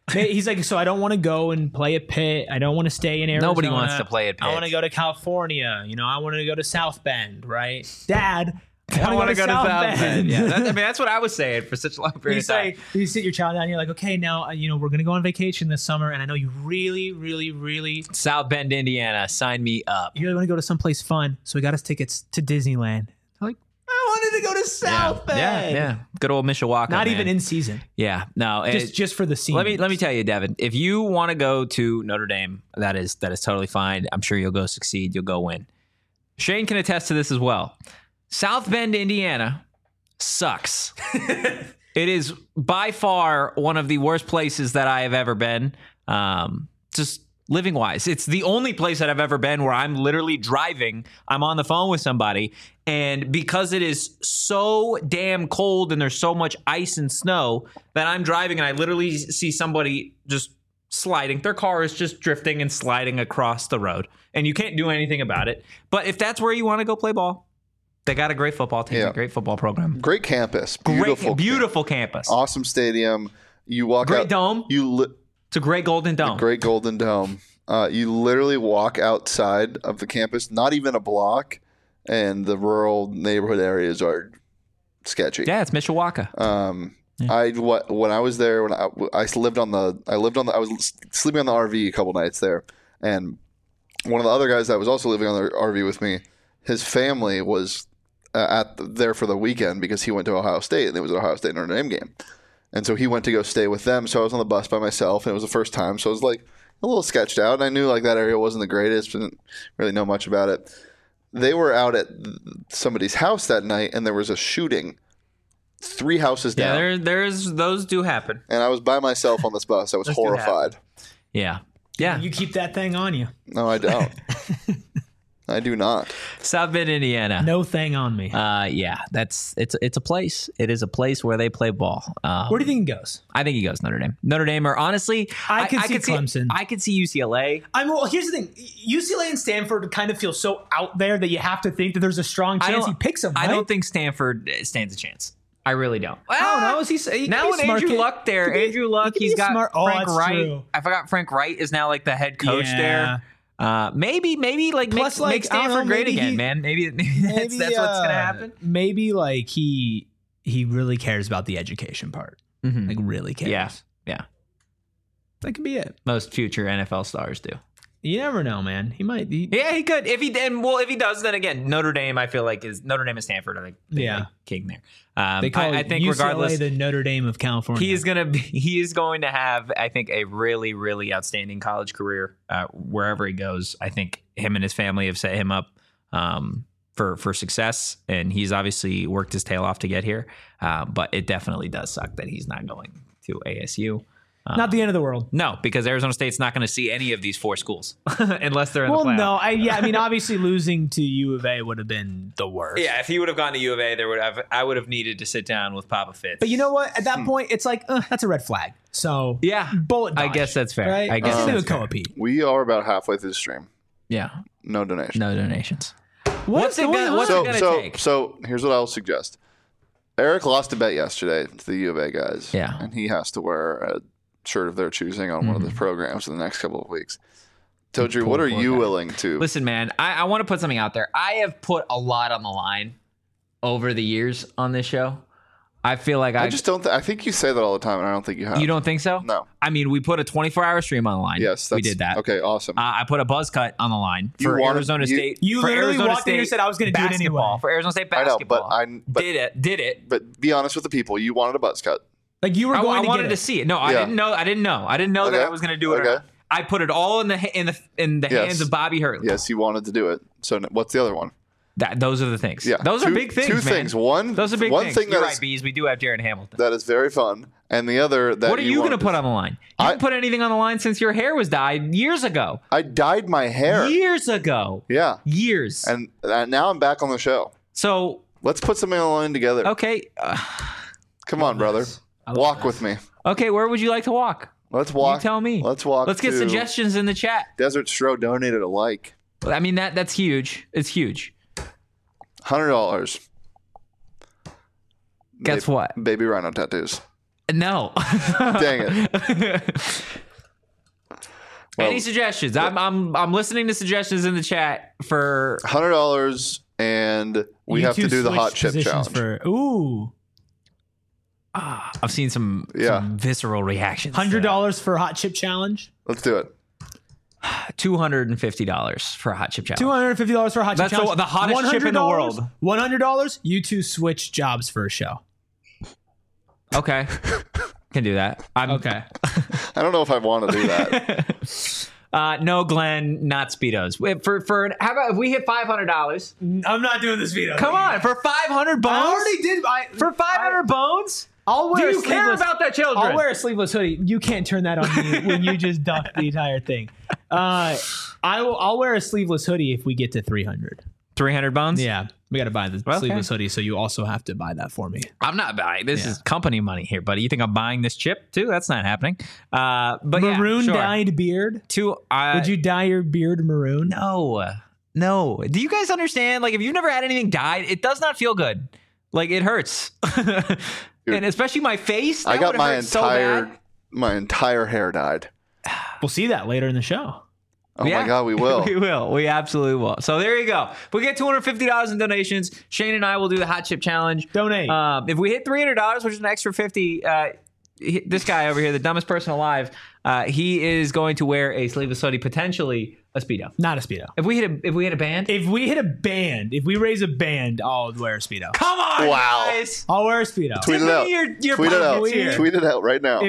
S1: He's like, so I don't want to go and play at Pitt. I don't want to stay in Arizona.
S2: Nobody wants to play at Pitt.
S1: I want to go to California. I want to go to South Bend, right? Dad,
S2: I want to go to South Bend. Yeah, that's what I was saying for such a long period of time.
S1: You sit your child down and you're like, okay, now, we're going to go on vacation this summer. And I know you really, really, really.
S2: South Bend, Indiana. Sign me up.
S1: You really want to go to someplace fun. So we got us tickets to Disneyland. Like, I wanted to go to South Bend.
S2: Yeah. Good old Mishawaka.
S1: Not even in season.
S2: Yeah. No.
S1: Just for the scene.
S2: Let me tell you, Devin, if you want to go to Notre Dame, that is totally fine. I'm sure you'll go succeed. You'll go win. Shane can attest to this as well. South Bend, Indiana sucks. It is by far one of the worst places that I have ever been. Just living wise. It's the only place that I've ever been where I'm literally driving. I'm on the phone with somebody. And because it is so damn cold and there's so much ice and snow that I'm driving and I literally see somebody just sliding. Their car is just drifting and sliding across the road. And you can't do anything about it. But if that's where you want to go play ball, they got a great football team, a great football program.
S3: Great campus.
S2: Beautiful campus.
S3: Awesome stadium. You walk
S2: great
S3: out.
S2: Dome. It's a great golden dome.
S3: Great golden dome. You literally walk outside of the campus, not even a block, and the rural neighborhood areas are sketchy.
S2: Yeah, it's Mishawaka.
S3: When I was there, I was sleeping on the RV a couple nights there, and one of the other guys that was also living on the RV with me, his family was there for the weekend because he went to Ohio State and it was an Ohio State Notre Dame game. And so he went to go stay with them. So I was on the bus by myself and it was the first time. So I was like a little sketched out. And I knew like that area wasn't the greatest. Didn't really know much about it. They were out at somebody's house that night and there was a shooting 3 houses down.
S2: Yeah, there's those do happen.
S3: And I was by myself on this bus. I was horrified.
S2: Yeah.
S1: You keep that thing on you.
S3: No, I don't. I do not.
S2: South Bend, Indiana.
S1: No thing on me.
S2: It's a place. It is a place where they play ball.
S1: Where do you think he goes?
S2: I think he goes Notre Dame. Notre Dame, or honestly,
S1: I could see Clemson.
S2: I could see UCLA.
S1: Here's the thing: UCLA and Stanford kind of feel so out there that you have to think that there's a strong chance he picks them. Right?
S2: I don't think Stanford stands a chance. I really don't.
S1: I don't know. Is he
S2: now with Andrew Luck there? Andrew Luck, he's got Frank Wright.
S1: True.
S2: I forgot Frank Wright is now like the head coach there. Maybe like
S1: plus,
S2: make Stanford great again, man. Maybe that's what's gonna happen.
S1: Maybe like he really cares about the education part.
S2: Mm-hmm.
S1: Like really cares.
S2: Yeah.
S1: That could be it.
S2: Most future NFL stars do.
S1: You never know, man. He might.
S2: He could. If he does, then again, Notre Dame. I feel like is Notre Dame and Stanford are like king there.
S1: They call
S2: I think
S1: UCLA
S2: regardless,
S1: the Notre Dame of California.
S2: He is going to have, I think, a really, really outstanding college career wherever he goes. I think him and his family have set him up for success, and he's obviously worked his tail off to get here. But it definitely does suck that he's not going to ASU.
S1: Not the end of the world.
S2: No, because Arizona State's not going to see any of these 4 schools unless they're in the playoff.
S1: I mean, obviously losing to U of A would have been the worst.
S2: Yeah, if he would have gone to U of A, I would have needed to sit down with Papa Fitz.
S1: But you know what? At that point, it's like that's a red flag. So bullet dodge,
S2: I guess that's fair.
S1: Right?
S2: I guess that's fair.
S3: We are about halfway through the stream.
S2: Yeah,
S3: no donations.
S2: What's it gonna take?
S3: So here's what I'll suggest. Eric lost a bet yesterday to the U of A guys.
S2: Yeah,
S3: and he has to wear a shirt of their choosing on one of the programs in the next couple of weeks. Todri, what are you willing to?
S2: Listen, man, I want to put something out there. I have put a lot on the line over the years on this show. I feel like
S3: I just don't. I think you say that all the time, and I don't think you have.
S2: You don't think so?
S3: No.
S2: I mean, we put a 24-hour stream on the line.
S3: Yes,
S2: we did that.
S3: Okay, awesome.
S2: I put a buzz cut on the line for Arizona State.
S1: You literally walked in and said I was going to do it anyway.
S2: For Arizona State basketball.
S3: I know, but
S2: did it.
S3: But be honest with the people. You wanted a buzz cut.
S1: Like you were going
S2: I wanted to see it. No, I didn't know. I didn't know that I was going to do it. Or not. I put it all in the hands of Bobby Hurley.
S3: Yes, you wanted to do it. So what's the other one?
S2: Those are the things.
S3: Yeah,
S2: those are big things.
S3: Two things. Those are big things. Thing
S2: You're right, Bees. We do have Jaron Hamilton.
S3: That is very fun. And the other that
S2: what are you going to put on the line? You didn't put anything on the line since your hair was dyed years ago.
S3: I dyed my hair
S2: years ago.
S3: Yeah,
S2: years.
S3: And now I'm back on the show.
S2: So
S3: let's put something on the line together.
S2: Okay.
S3: Come on, brother. Walk with me.
S2: Okay, where would you like to walk?
S3: Let's walk.
S2: You tell me.
S3: Let's walk.
S2: Let's get suggestions in the chat.
S3: Desert Stro donated a like.
S2: I mean that's huge. It's huge.
S3: $100.
S2: Guess what?
S3: Baby rhino tattoos.
S2: No.
S3: Dang it. Well,
S2: Any suggestions? I'm listening to suggestions in the chat for
S3: $100, and we
S1: You
S3: have to
S1: two
S3: do the hot
S1: switch
S3: chip
S1: positions
S3: challenge.
S1: Ooh.
S2: I've seen some visceral reactions.
S1: $100 for hot chip challenge.
S3: Let's do it.
S2: $250 for a hot chip challenge.
S1: $250 for a hot chip
S2: That's
S1: challenge.
S2: the hottest chip in the world.
S1: $100. You two switch jobs for a show.
S2: Okay. Can do that.
S1: Okay.
S3: I don't know if I want to do that.
S2: No, Glenn, not Speedos. How about if we hit $500?
S1: I'm not doing this video.
S2: Come on, for 500 bones?
S1: I already did.
S2: For 500 bones?
S1: I'll wear
S2: Do you care about the children?
S1: I'll wear a sleeveless hoodie. You can't turn that on me when you just duck the entire thing. I'll wear a sleeveless hoodie if we get to 300.
S2: 300 bones?
S1: Yeah, we got to buy the sleeveless hoodie, so you also have to buy that for me.
S2: I'm not buying. This is company money here, buddy. You think I'm buying this chip too? That's not happening. But
S1: maroon
S2: yeah, sure.
S1: dyed beard. Would you dye your beard maroon?
S2: No. Do you guys understand? Like, if you've never had anything dyed, it does not feel good. Like, it hurts. And especially my face.
S3: I got my entire hair dyed.
S1: We'll see that later in the show.
S3: Oh my God, we will.
S2: We will. We absolutely will. So there you go. If we get $250 in donations, Shane and I will do the hot chip challenge.
S1: Donate.
S2: If we hit $300, which is an extra $50, this guy over here, the dumbest person alive, he is going to wear a sleeveless hoodie, potentially a Speedo.
S1: Not a Speedo.
S2: If we hit a band?
S1: If we raise a band, I'll wear a Speedo.
S2: Come on,
S3: Wow.
S2: guys.
S1: I'll wear a Speedo.
S3: Tweet it out. Tweet it out.
S1: here.
S3: Tweet it out right now.
S1: If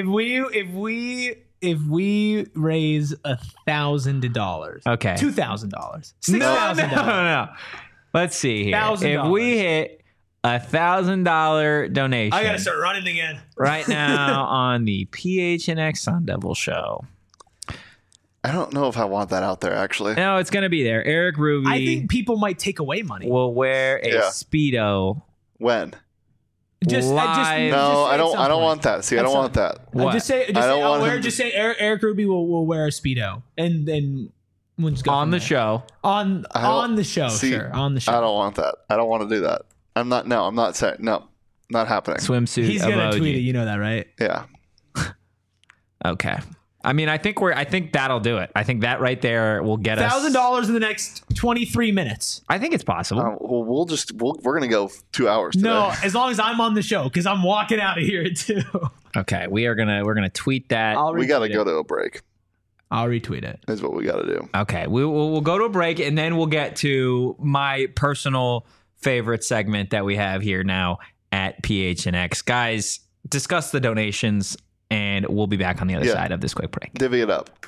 S1: we raise $1,000,
S2: Okay.
S1: $2,000,
S2: $6,000. No. Let's see here.
S1: $1,000.
S2: If we hit $1,000 donation,
S1: I gotta start running again.
S2: right now on the PHNX Sun Devil show.
S3: I don't know if I want that out there, actually.
S2: No, it's gonna be there. Eric Ruby.
S1: I think people might take away money.
S2: will wear a Speedo.
S3: When?
S1: Just
S3: No, I don't want that. See, I don't want that.
S2: What?
S1: Just say Eric Ruby will wear a Speedo, and then we'll just go
S2: on
S1: from
S2: the
S1: there.
S2: show.
S1: On the show,
S3: See,
S1: sure. On the show.
S3: I don't want that. I don't want to do that. I'm not saying no. Not happening.
S2: Swimsuit.
S1: He's gonna
S2: emoji.
S1: tweet it. You know that, right?
S3: Yeah.
S2: Okay. I mean, I think that'll do it. I think that right there will get us
S1: $1,000 in the next 23 minutes.
S2: I think it's possible.
S3: Well, we're gonna go 2 hours today.
S1: No, as long as I'm on the show, because I'm walking out of here too.
S2: Okay, we're gonna tweet that.
S3: We gotta go to a break.
S1: I'll retweet it.
S3: Is what we gotta do.
S2: Okay, we'll go to a break and then we'll get to my personal favorite segment that we have here now at PHNX. Guys, discuss the donations. And we'll be back on the other side of this quick break.
S3: Divvy it up.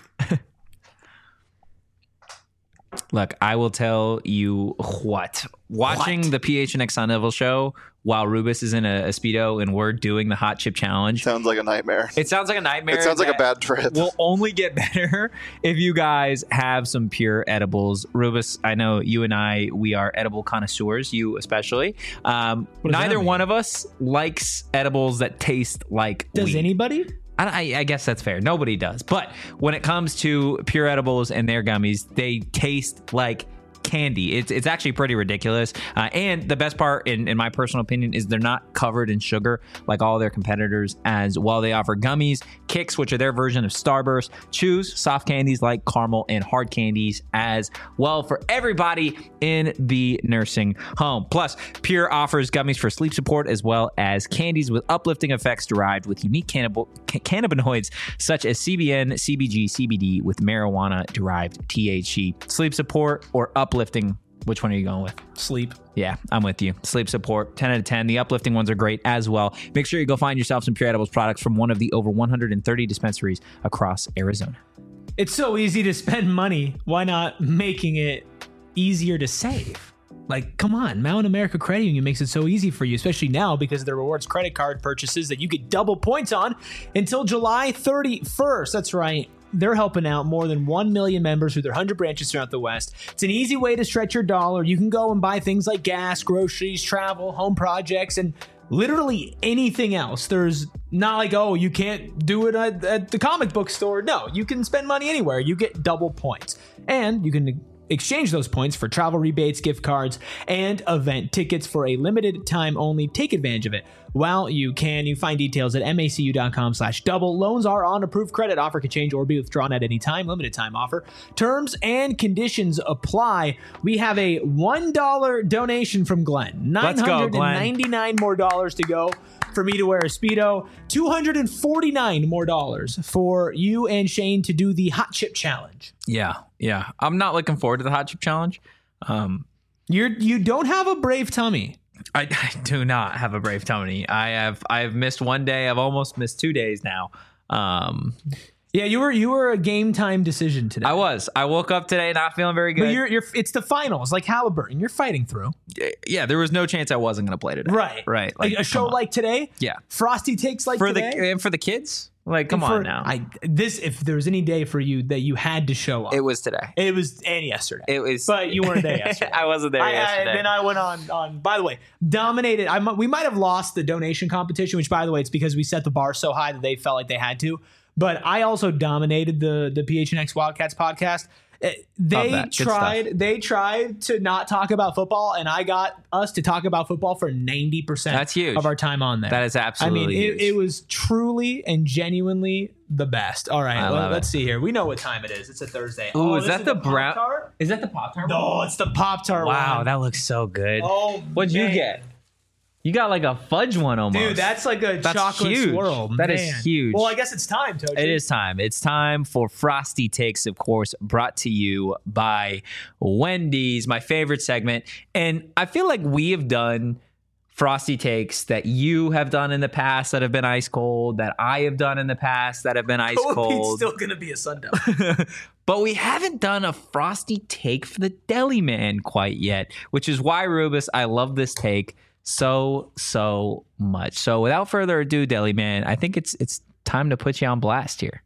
S2: Look, I will tell you what. Watching the PHNX Sun Devil show while Rubus is in a Speedo and we're doing the hot chip challenge.
S3: Sounds like a nightmare.
S2: It sounds like a nightmare.
S3: It sounds like a bad trip.
S2: Will only get better if you guys have some pure edibles. Rubus, I know you and we are edible connoisseurs, you especially. Neither one of us likes edibles that taste like
S1: Does
S2: weed.
S1: anybody?
S2: I guess that's fair. Nobody does. But when it comes to pure edibles and their gummies, they taste like candy. It's actually pretty ridiculous. And the best part, in my personal opinion, is they're not covered in sugar like all their competitors as well. They offer gummies, kicks, which are their version of Starburst, chews, soft candies like caramel, and hard candies as well for everybody in the nursing home. Plus, Pure offers gummies for sleep support as well as candies with uplifting effects derived with unique cannabinoids such as CBN, CBG, CBD with marijuana-derived THC. Sleep support or uplifting, which one are you going with?
S1: Sleep.
S2: Yeah, I'm with you. Sleep support, 10 out of 10. The uplifting ones are great as well. Make sure you go find yourself some Pure Edibles products from one of the over 130 dispensaries across Arizona.
S1: It's so easy to spend money. Why not making it easier to save? Like, come on, Mountain America Credit Union makes it so easy for you, especially now because of the rewards credit card purchases that you get double points on until July 31st. That's right. They're helping out more than 1 million members through their 100 branches throughout the West. It's an easy way to stretch your dollar. You can go and buy things like gas, groceries, travel, home projects, and literally anything else. There's not like, oh, you can't do it at the comic book store. No, you can spend money anywhere. You get double points. And you can exchange those points for travel rebates, gift cards, and event tickets for a limited time only. Take advantage of it while you can. You find details at macu.com/double. Loans are on approved credit. Offer can change or be withdrawn at any time. Limited time offer. Terms and conditions apply. We have a $1 donation from Glenn.
S2: Let's go, Glenn.
S1: $999 more dollars to go for me to wear a Speedo. $249 more dollars for you and Shane to do the hot chip challenge.
S2: Yeah. I'm not looking forward to the hot chip challenge.
S1: You don't have a brave tummy.
S2: I do not have a brave tummy. I've missed one day. I've almost missed 2 days now.
S1: Yeah, you were a game time decision today.
S2: I was. I woke up today not feeling very good.
S1: But you're it's the finals, like Halliburton. You're fighting through.
S2: Yeah, there was no chance I wasn't going to play today. Right.
S1: Like a show like today.
S2: Yeah.
S1: Frosty takes like
S2: for
S1: today.
S2: For the kids. Like, come on now.
S1: If there was any day for you that you had to show up,
S2: it was today.
S1: It was and yesterday.
S2: It was,
S1: but you weren't there yesterday.
S2: I wasn't there yesterday.
S1: Then I went on. By the way, dominated. We might have lost the donation competition, which, by the way, it's because we set the bar so high that they felt like they had to. But I also dominated the PHNX Wildcats podcast. They tried to not talk about football, and I got us to talk about football for 90%
S2: That's huge.
S1: of our time on there.
S2: That is absolutely huge.
S1: It was truly and genuinely the best. All right, let's see here. We know what time it is. It's a Thursday.
S2: Ooh, is that the Pop-Tart? Is that the Pop-Tart?
S1: No, it's the Pop-Tart one.
S2: Wow, that looks so good.
S1: Oh,
S2: what'd you get? You got like a fudge one almost.
S1: Dude, that's like a chocolate
S2: huge.
S1: swirl.
S2: That is huge.
S1: Well, I guess it's time, Toji.
S2: It is time. It's time for Frosty Takes, of course, brought to you by Wendy's, my favorite segment. And I feel like we have done Frosty Takes that you have done in the past that have been ice cold, that I have done in the past that have been ice cold.
S1: It's still going to be a sundown.
S2: But we haven't done a Frosty Take for the Deli Man quite yet, which is why, Rubus, I love this take so much. So without further ado, Deli Man, I think it's time to put you on blast here.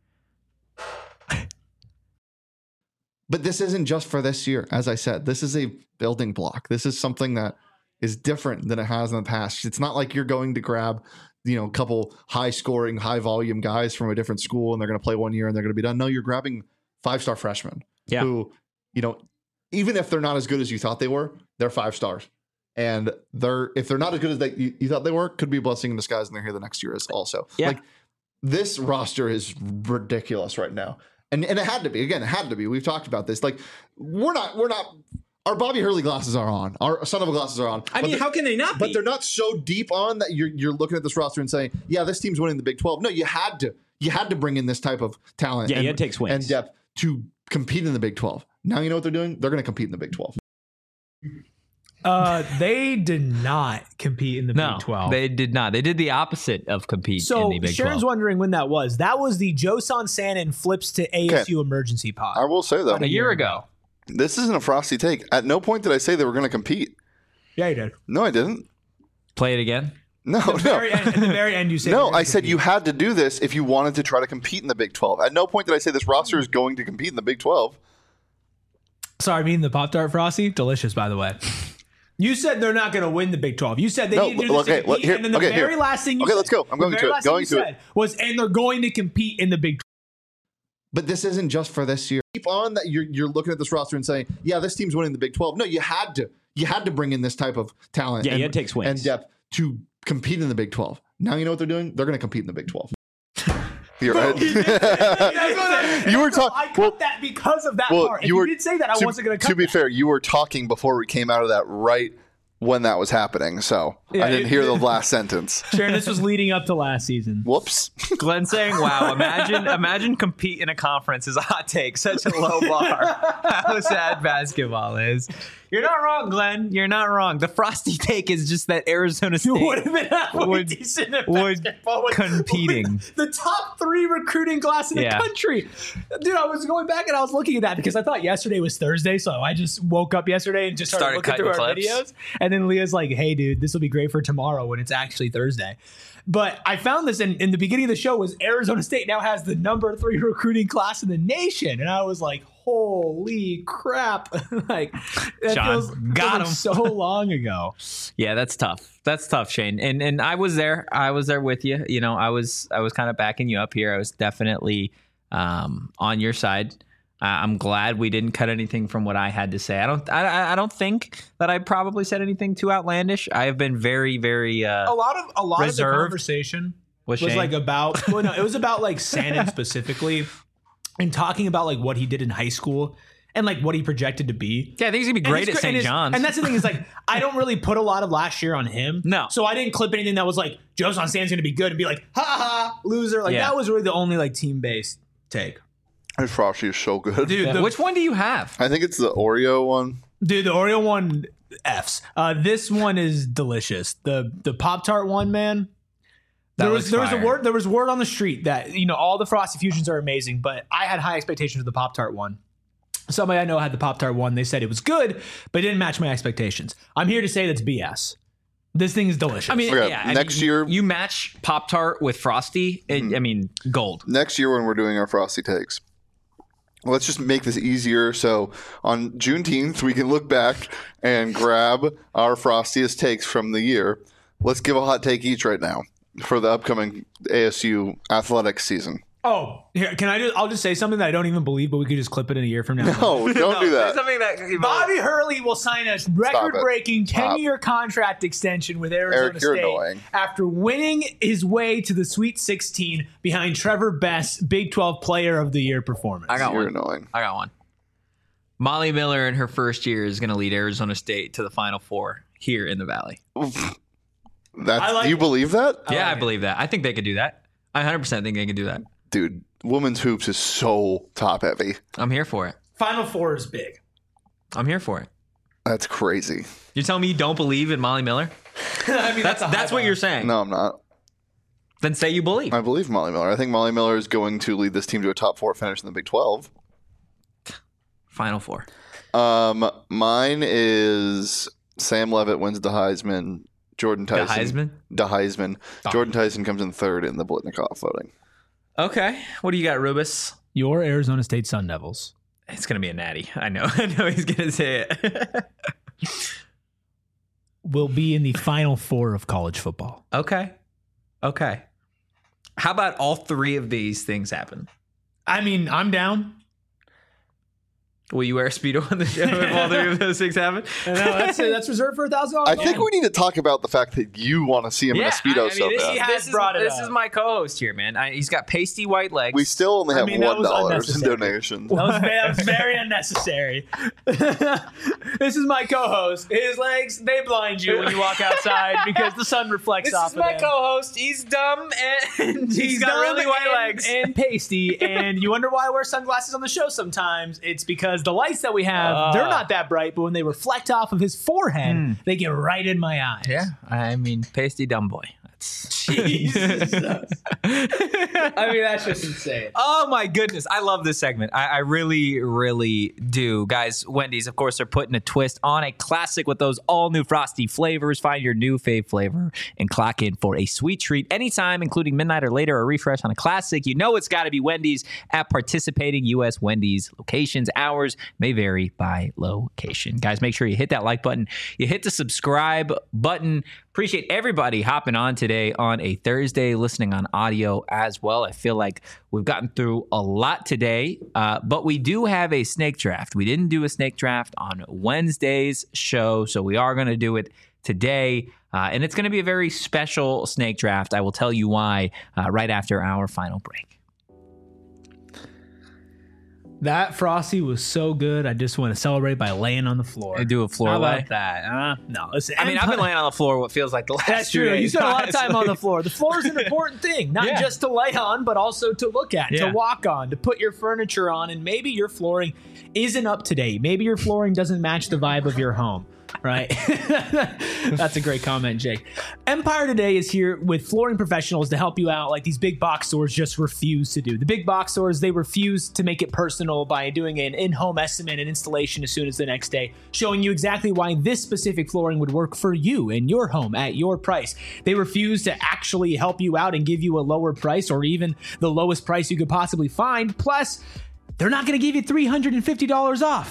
S3: But this isn't just for this year. As I said, this is a building block. This is something that is different than it has in the past. It's not like you're going to grab, a couple high scoring, high volume guys from a different school and they're going to play 1 year and they're going to be done. No, you're grabbing 5-star freshmen who, even if they're not as good as you thought they were, they're 5 stars. And if they're not as good as you thought they were, could be a blessing in disguise, and they're here the next year as also. Yeah. Like, this roster is ridiculous right now, and it had to be. Again, it had to be. We've talked about this. Like, we're not. Our Bobby Hurley glasses are on. Our son of a glasses are on.
S1: I mean, how can they not be?
S3: But they're not so deep on that you're looking at this roster and saying, yeah, this team's winning the Big 12. No, you had to bring in this type of talent.
S1: Yeah, you had to take swings
S3: and depth to compete in the Big 12. Now you know what they're doing. They're going to compete in the Big 12.
S1: They did not compete in the Big 12.
S2: They did not. They did the opposite of compete in the Big 12.
S1: So Sharon's wondering when that was. That was the Joe Sansanin flips to ASU emergency pod.
S3: I will say, though.
S2: A year ago.
S3: This isn't a Frosty take. At no point did I say they were going to compete.
S1: Yeah, you did.
S3: No, I didn't.
S2: Play it again?
S3: No.
S1: At the very end, you said
S3: no, I said you had to do this if you wanted to try to compete in the Big 12. At no point did I say this roster is going to compete in the Big 12.
S1: Sorry, I mean the Pop-Tart Frosty? Delicious, by the way. You said they're not going to win the Big 12. You said they need to do this to compete, and then the very last thing you said.
S3: Let's go. I'm going to it. Going to it.
S1: Was, and they're going to compete in the Big 12.
S3: But this isn't just for this year. Keep on that you're looking at this roster and saying, yeah, this team's winning the Big 12. No, you had to bring in this type of talent.
S1: Yeah, you had to take swings
S3: and depth to compete in the Big 12. Now you know what they're doing? They're going to compete in the Big 12. You're right. You were talking.
S1: I cut that because of that part. If you did say that, I wasn't going to cut.
S3: To be fair, you were talking before we came out of that right when that was happening, so I didn't hear the last sentence.
S1: Sharon, this was leading up to last season.
S3: Whoops.
S2: Glenn saying, wow, imagine compete in a conference is a hot take. Such a low bar. How sad basketball is. You're not wrong, Glenn. You're not wrong. The Frosty take is just that Arizona State
S1: would have been halfway decent at basketball.
S2: Competing.
S1: The top 3 recruiting class in the country. Dude, I was going back and I was looking at that because I thought yesterday was Thursday, so I just woke up yesterday and just started looking through our videos. And then Leah's like, hey, dude, this will be great for tomorrow when it's actually Thursday. But I found this in the beginning of the show was Arizona State now has the number 3 recruiting class in the nation. And I was like, holy crap. Like, that feels
S2: him
S1: so long ago.
S2: Yeah, that's tough. That's tough, Shane. And I was there. I was there with you. I was kind of backing you up here. I was definitely on your side. I'm glad we didn't cut anything from what I had to say. I don't think that I probably said anything too outlandish. I have been very, very
S1: a lot of the
S2: reserved.
S1: Conversation was
S2: Shane?
S1: like about well, no, it was about like Sandin specifically and talking about like what he did in high school and like what he projected to be.
S2: Yeah, I think he's gonna be great at St. John's.
S1: And that's the thing is like I don't really put a lot of last year on him.
S2: No.
S1: So I didn't clip anything that was like Joe's on Sand's gonna be good and be like, ha ha, loser. Like that was really the only like team based take.
S3: His Frosty is so good.
S1: Dude,
S2: which one do you have?
S3: I think it's the Oreo one.
S1: Dude, the Oreo one F's. This one is delicious. The Pop-Tart one, man. There was word on the street that, you know, all the Frosty Fusions are amazing, but I had high expectations of the Pop-Tart one. Somebody I know had the Pop-Tart one. They said it was good, but it didn't match my expectations. I'm here to say that's BS. This thing is delicious.
S2: I mean,
S3: Okay, next year
S2: you match Pop-Tart with Frosty. I mean, gold.
S3: Next year when we're doing our Frosty takes, let's just make this easier. So on Juneteenth, we can look back and grab our Frostiest takes from the year. Let's give a hot take each right now for the upcoming ASU athletics season.
S1: Oh, here, I'll just say something that I don't even believe, but we could just clip it in a year from now.
S3: No, don't do that.
S2: Something that
S1: Bobby Hurley will sign a record-breaking 10-year contract extension with Arizona
S3: you're
S1: State
S3: annoying.
S1: after winning his way to the Sweet 16 behind Trevor Best's Big 12 Player of the Year performance.
S3: You're annoying.
S2: I got one. Molly Miller in her first year is going to lead Arizona State to the Final Four here in the Valley.
S3: Do you believe that?
S2: I believe that. I think they could do that. I 100% think they could do that.
S3: Dude, women's hoops is so top heavy.
S2: I'm here for it.
S1: Final Four is big.
S2: I'm here for it.
S3: That's crazy.
S2: You're telling me you don't believe in Molly Miller?
S1: I mean,
S2: That's what you're saying.
S3: No, I'm not.
S2: Then say you believe.
S3: I believe Molly Miller. I think Molly Miller is going to lead this team to a top 4 finish in the Big 12.
S2: Final Four.
S3: Mine is Sam Levitt wins the Heisman. Jordan Tyson. The Heisman. Jordan Tyson comes in third in the Blitnikoff voting.
S2: Okay. What do you got, Rubus?
S1: Your Arizona State Sun Devils.
S2: It's going to be a natty. I know he's going to say it.
S1: Will be in the Final Four of college football.
S2: Okay. How about all three of these things happen?
S1: I mean, I'm down.
S2: Will you wear a Speedo on the show if all three of those things happen?
S1: No, that's reserved for $1,000.
S3: I think we need to talk about the fact that you want to see him in a Speedo so bad.
S2: This is my co-host here, man. He's got pasty white legs.
S3: We still only have $1 in donations.
S1: That was very unnecessary. This is my co-host. His legs, they blind you when you walk outside because the sun reflects off of him.
S2: This is my co-host. He's dumb and he's got really white legs.
S1: And pasty. And you wonder why I wear sunglasses on the show sometimes. It's because the lights that we have, they're not that bright, but when they reflect off of his forehead, they get right in my eyes.
S2: Yeah, I mean, pasty dumb boy.
S1: Jesus. I mean, that's just insane.
S2: Oh my goodness. I love this segment. I really, really do. Guys, Wendy's, of course, are putting a twist on a classic with those all new frosty flavors. Find your new fave flavor and clock in for a sweet treat anytime, including midnight or later, or a refresh on a classic. You know it's got to be Wendy's at participating U.S. Wendy's locations. Hours may vary by location. Guys, make sure you hit that like button. You hit the subscribe button. Appreciate everybody hopping on today on a Thursday, listening on audio as well. I feel like we've gotten through a lot today, but we do have a snake draft. We didn't do a snake draft on Wednesday's show, so we are going to do it today, and it's going to be a very special snake draft. I will tell you why right after our final break.
S1: That Frosty was so good. I just want to celebrate by laying on the floor.
S2: I do a floor
S1: How
S2: lay.
S1: about that? No, listen.
S2: I mean, I've been laying on the floor what feels like the last
S1: That's
S2: 2
S1: true.
S2: days.
S1: You spend a lot of time on the floor. The floor is an important thing, not just to lay on, but also to look at, to walk on, to put your furniture on, and maybe your flooring isn't up to date. Maybe your flooring doesn't match the vibe of your home. Right? That's a great comment, Jake. Empire Today is here with flooring professionals to help you out like these big box stores just refuse to do. The big box stores, they refuse to make it personal by doing an in-home estimate and installation as soon as the next day, showing you exactly why this specific flooring would work for you in your home at your price. They refuse to actually help you out and give you a lower price or even the lowest price you could possibly find. Plus, they're not going to give you $350 off.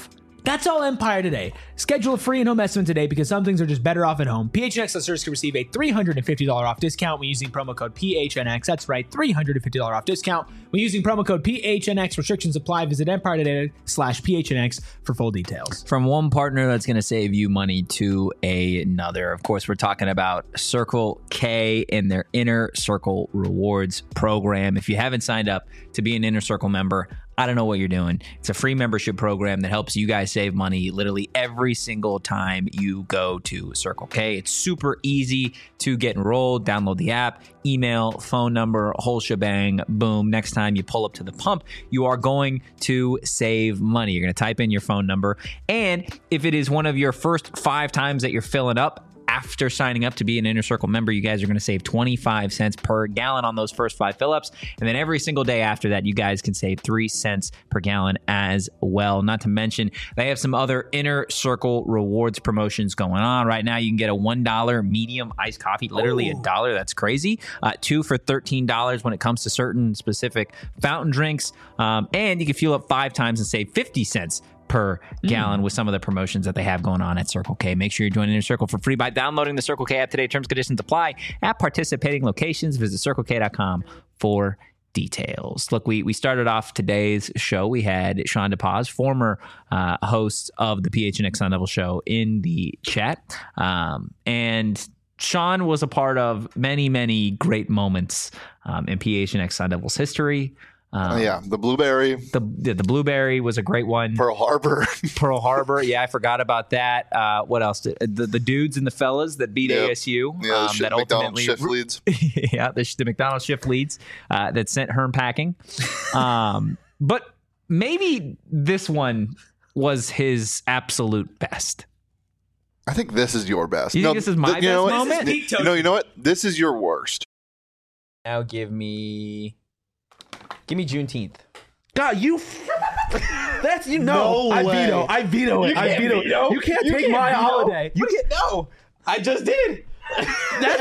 S1: That's all Empire today. Schedule a free in-home estimate today because some things are just better off at home. PHNX listeners can receive a $350 off discount when using promo code PHNX. That's right, $350 off discount when using promo code PHNX. Restrictions apply. Visit Empire today/PHNX for full details.
S2: From one partner that's going to save you money to another. Of course, we're talking about Circle K and their Inner Circle Rewards program. If you haven't signed up to be an Inner Circle member, I don't know what you're doing. It's a free membership program that helps you guys save money literally every single time you go to Circle K. It's super easy to get enrolled. Download the app, email, phone number, whole shebang, boom. Next time you pull up to the pump, you are going to save money. You're going to type in your phone number. And if it is one of your first 5 times that you're filling up, after signing up to be an Inner Circle member, you guys are going to save 25 cents per gallon on those first 5 fill-ups. And then every single day after that, you guys can save 3 cents per gallon as well. Not to mention, they have some other Inner Circle Rewards promotions going on. Right now, you can get a $1 medium iced coffee, literally $1. That's crazy. 2 for $13 when it comes to certain specific fountain drinks. And you can fuel up 5 times and save 50 cents per gallon with some of the promotions that they have going on at Circle K. Make sure you're joining Inner Circle for free by downloading the Circle K app today. Terms and conditions apply at participating locations. Visit CircleK.com for details. Look, we started off today's show. We had Sean DePaz, former host of the PHNX Sun Devil show, in the chat. And Sean was a part of many, many great moments in PHNX Sun Devils history.
S3: The blueberry.
S2: The blueberry was a great one.
S3: Pearl Harbor. Yeah,
S2: I forgot about that. What else? The dudes and the fellas that beat ASU.
S3: Yeah, that McDonald's shift leads.
S2: Yeah, the McDonald's shift leads that sent Herm packing. But maybe this one was his absolute best.
S3: I think this is your best.
S2: You think this is my best moment?
S3: You know what? This is your worst.
S2: Now give me Juneteenth.
S5: God, that's you know. No, I veto it. I veto it. You can't take my holiday.
S2: You can't. No, I just did.
S5: That's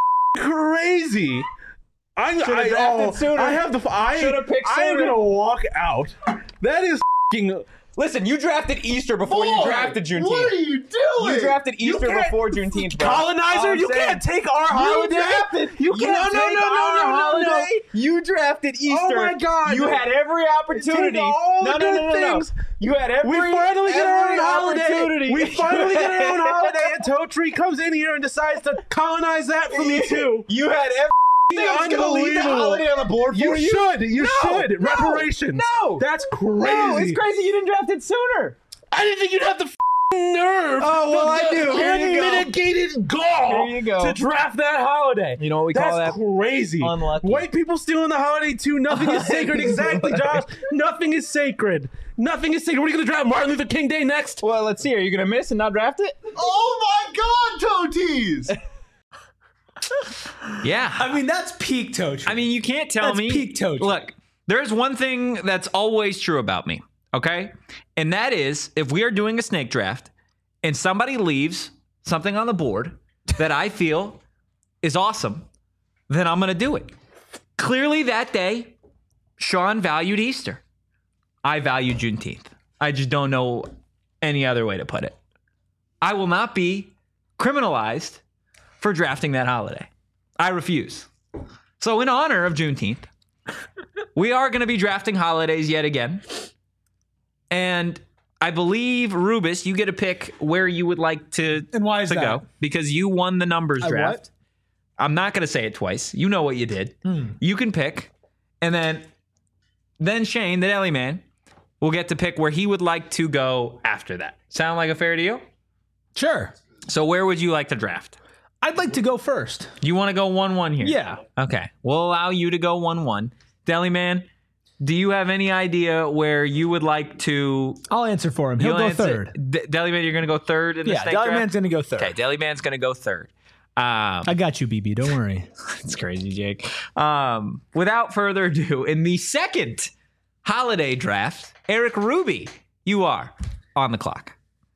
S5: crazy. I have the. I should have picked sooner. I am gonna walk out. That is.
S2: Listen, you drafted Easter before you drafted Juneteenth.
S3: What are you doing?
S2: You drafted Easter before Juneteenth, bro.
S5: Colonizer, you can't take our holiday. You can't take our holiday.
S2: You drafted Easter.
S5: Oh my God!
S2: You had every opportunity. No. You had every.
S5: We finally get our own holiday. We finally get our own holiday, and Totri comes in here and decides to colonize that for me too.
S2: You had every.
S5: Unbelievable.
S2: Holiday on the board for you.
S5: You should. Reparations.
S2: No.
S5: That's crazy.
S2: No, it's crazy you didn't draft it sooner.
S5: I didn't think you'd have the nerve.
S2: Oh, well, I do.
S5: Unmitigated gall to draft that holiday.
S2: You know what we call that?
S5: That's crazy.
S2: Unlucky.
S5: White people stealing the holiday too. Nothing is sacred. Exactly, Josh. Nothing is sacred. Nothing is sacred. What are you going to draft? Martin Luther King Day next?
S2: Well, let's see. Are you going to miss and not draft it?
S3: Oh my God, Toties!
S2: Yeah.
S1: I mean, that's peak Toach.
S2: I mean, you can't tell me.
S1: Peak Toach.
S2: Look, there's one thing that's always true about me, okay? And that is, if we are doing a snake draft and somebody leaves something on the board that I feel is awesome, then I'm going to do it. Clearly that day, Sean valued Easter. I value Juneteenth. I just don't know any other way to put it. I will not be criminalized for drafting that holiday. I refuse. So in honor of Juneteenth, we are going to be drafting holidays yet again. And I believe, Rubus, you get to pick where you would like to,
S1: and why is that?
S2: Go. Because you won the numbers draft.
S1: What?
S2: I'm not going to say it twice. You know what you did. You can pick. And then Shane, the deli man, will get to pick where he would like to go after that. Sound like a fair deal?
S1: Sure.
S2: So where would you like to draft?
S1: I'd like to go first.
S2: You want to go 1-1 here?
S1: Yeah.
S2: Okay. We'll allow you to go 1-1. Deli man, do you have any idea where you would like to...
S1: I'll answer for him. He'll go third.
S2: Deli man, you're going to go third in the snake
S1: Deli
S2: draft?
S1: man's going to go third.
S2: Okay, Deli man's going to go third.
S1: I got you, BB. Don't worry.
S2: It's crazy, Jake. Without further ado, in the second holiday draft, Eric Ruby, you are on the clock.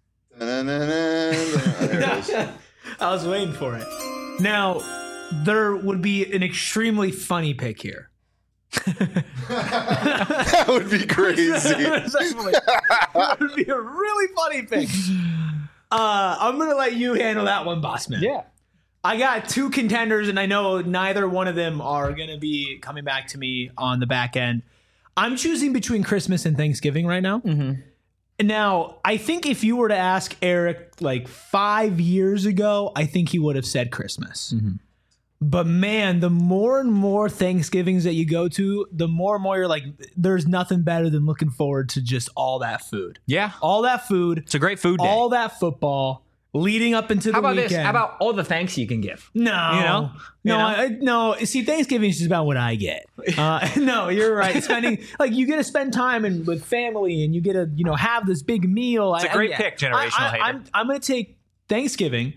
S1: I was waiting for it. Now, there would be an extremely funny pick here.
S3: That would be crazy.
S1: That would be a really funny pick. I'm going to let you handle that one, boss man.
S2: Yeah.
S1: I got 2 contenders, and I know neither one of them are going to be coming back to me on the back end. I'm choosing between Christmas and Thanksgiving right now. Now, I think if you were to ask Eric like 5 years ago, I think he would have said Christmas. But man, the more and more Thanksgivings that you go to, the more and more you're like, there's nothing better than looking forward to just all that food.
S2: Yeah.
S1: All that food.
S2: It's a great food day.
S1: All that football leading up into the weekend.
S2: How about this? How about all the thanks you can give?
S1: No. No. See, Thanksgiving is just about what I get. No, you're right. Spending, like, you get to spend time with family and you get to, have this big meal.
S2: It's a great pick, generational hater.
S1: I'm going to take Thanksgiving.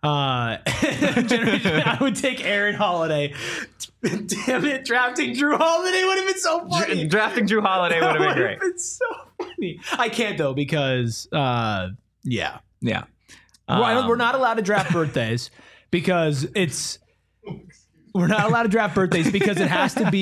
S1: I would take Aaron Holiday. Damn it, drafting Drew Holiday would have been so funny.
S2: Drafting Drew Holiday would have been great.
S1: It's so funny. I can't though because yeah. We're not allowed to draft birthdays because we're not allowed to draft birthdays because it has to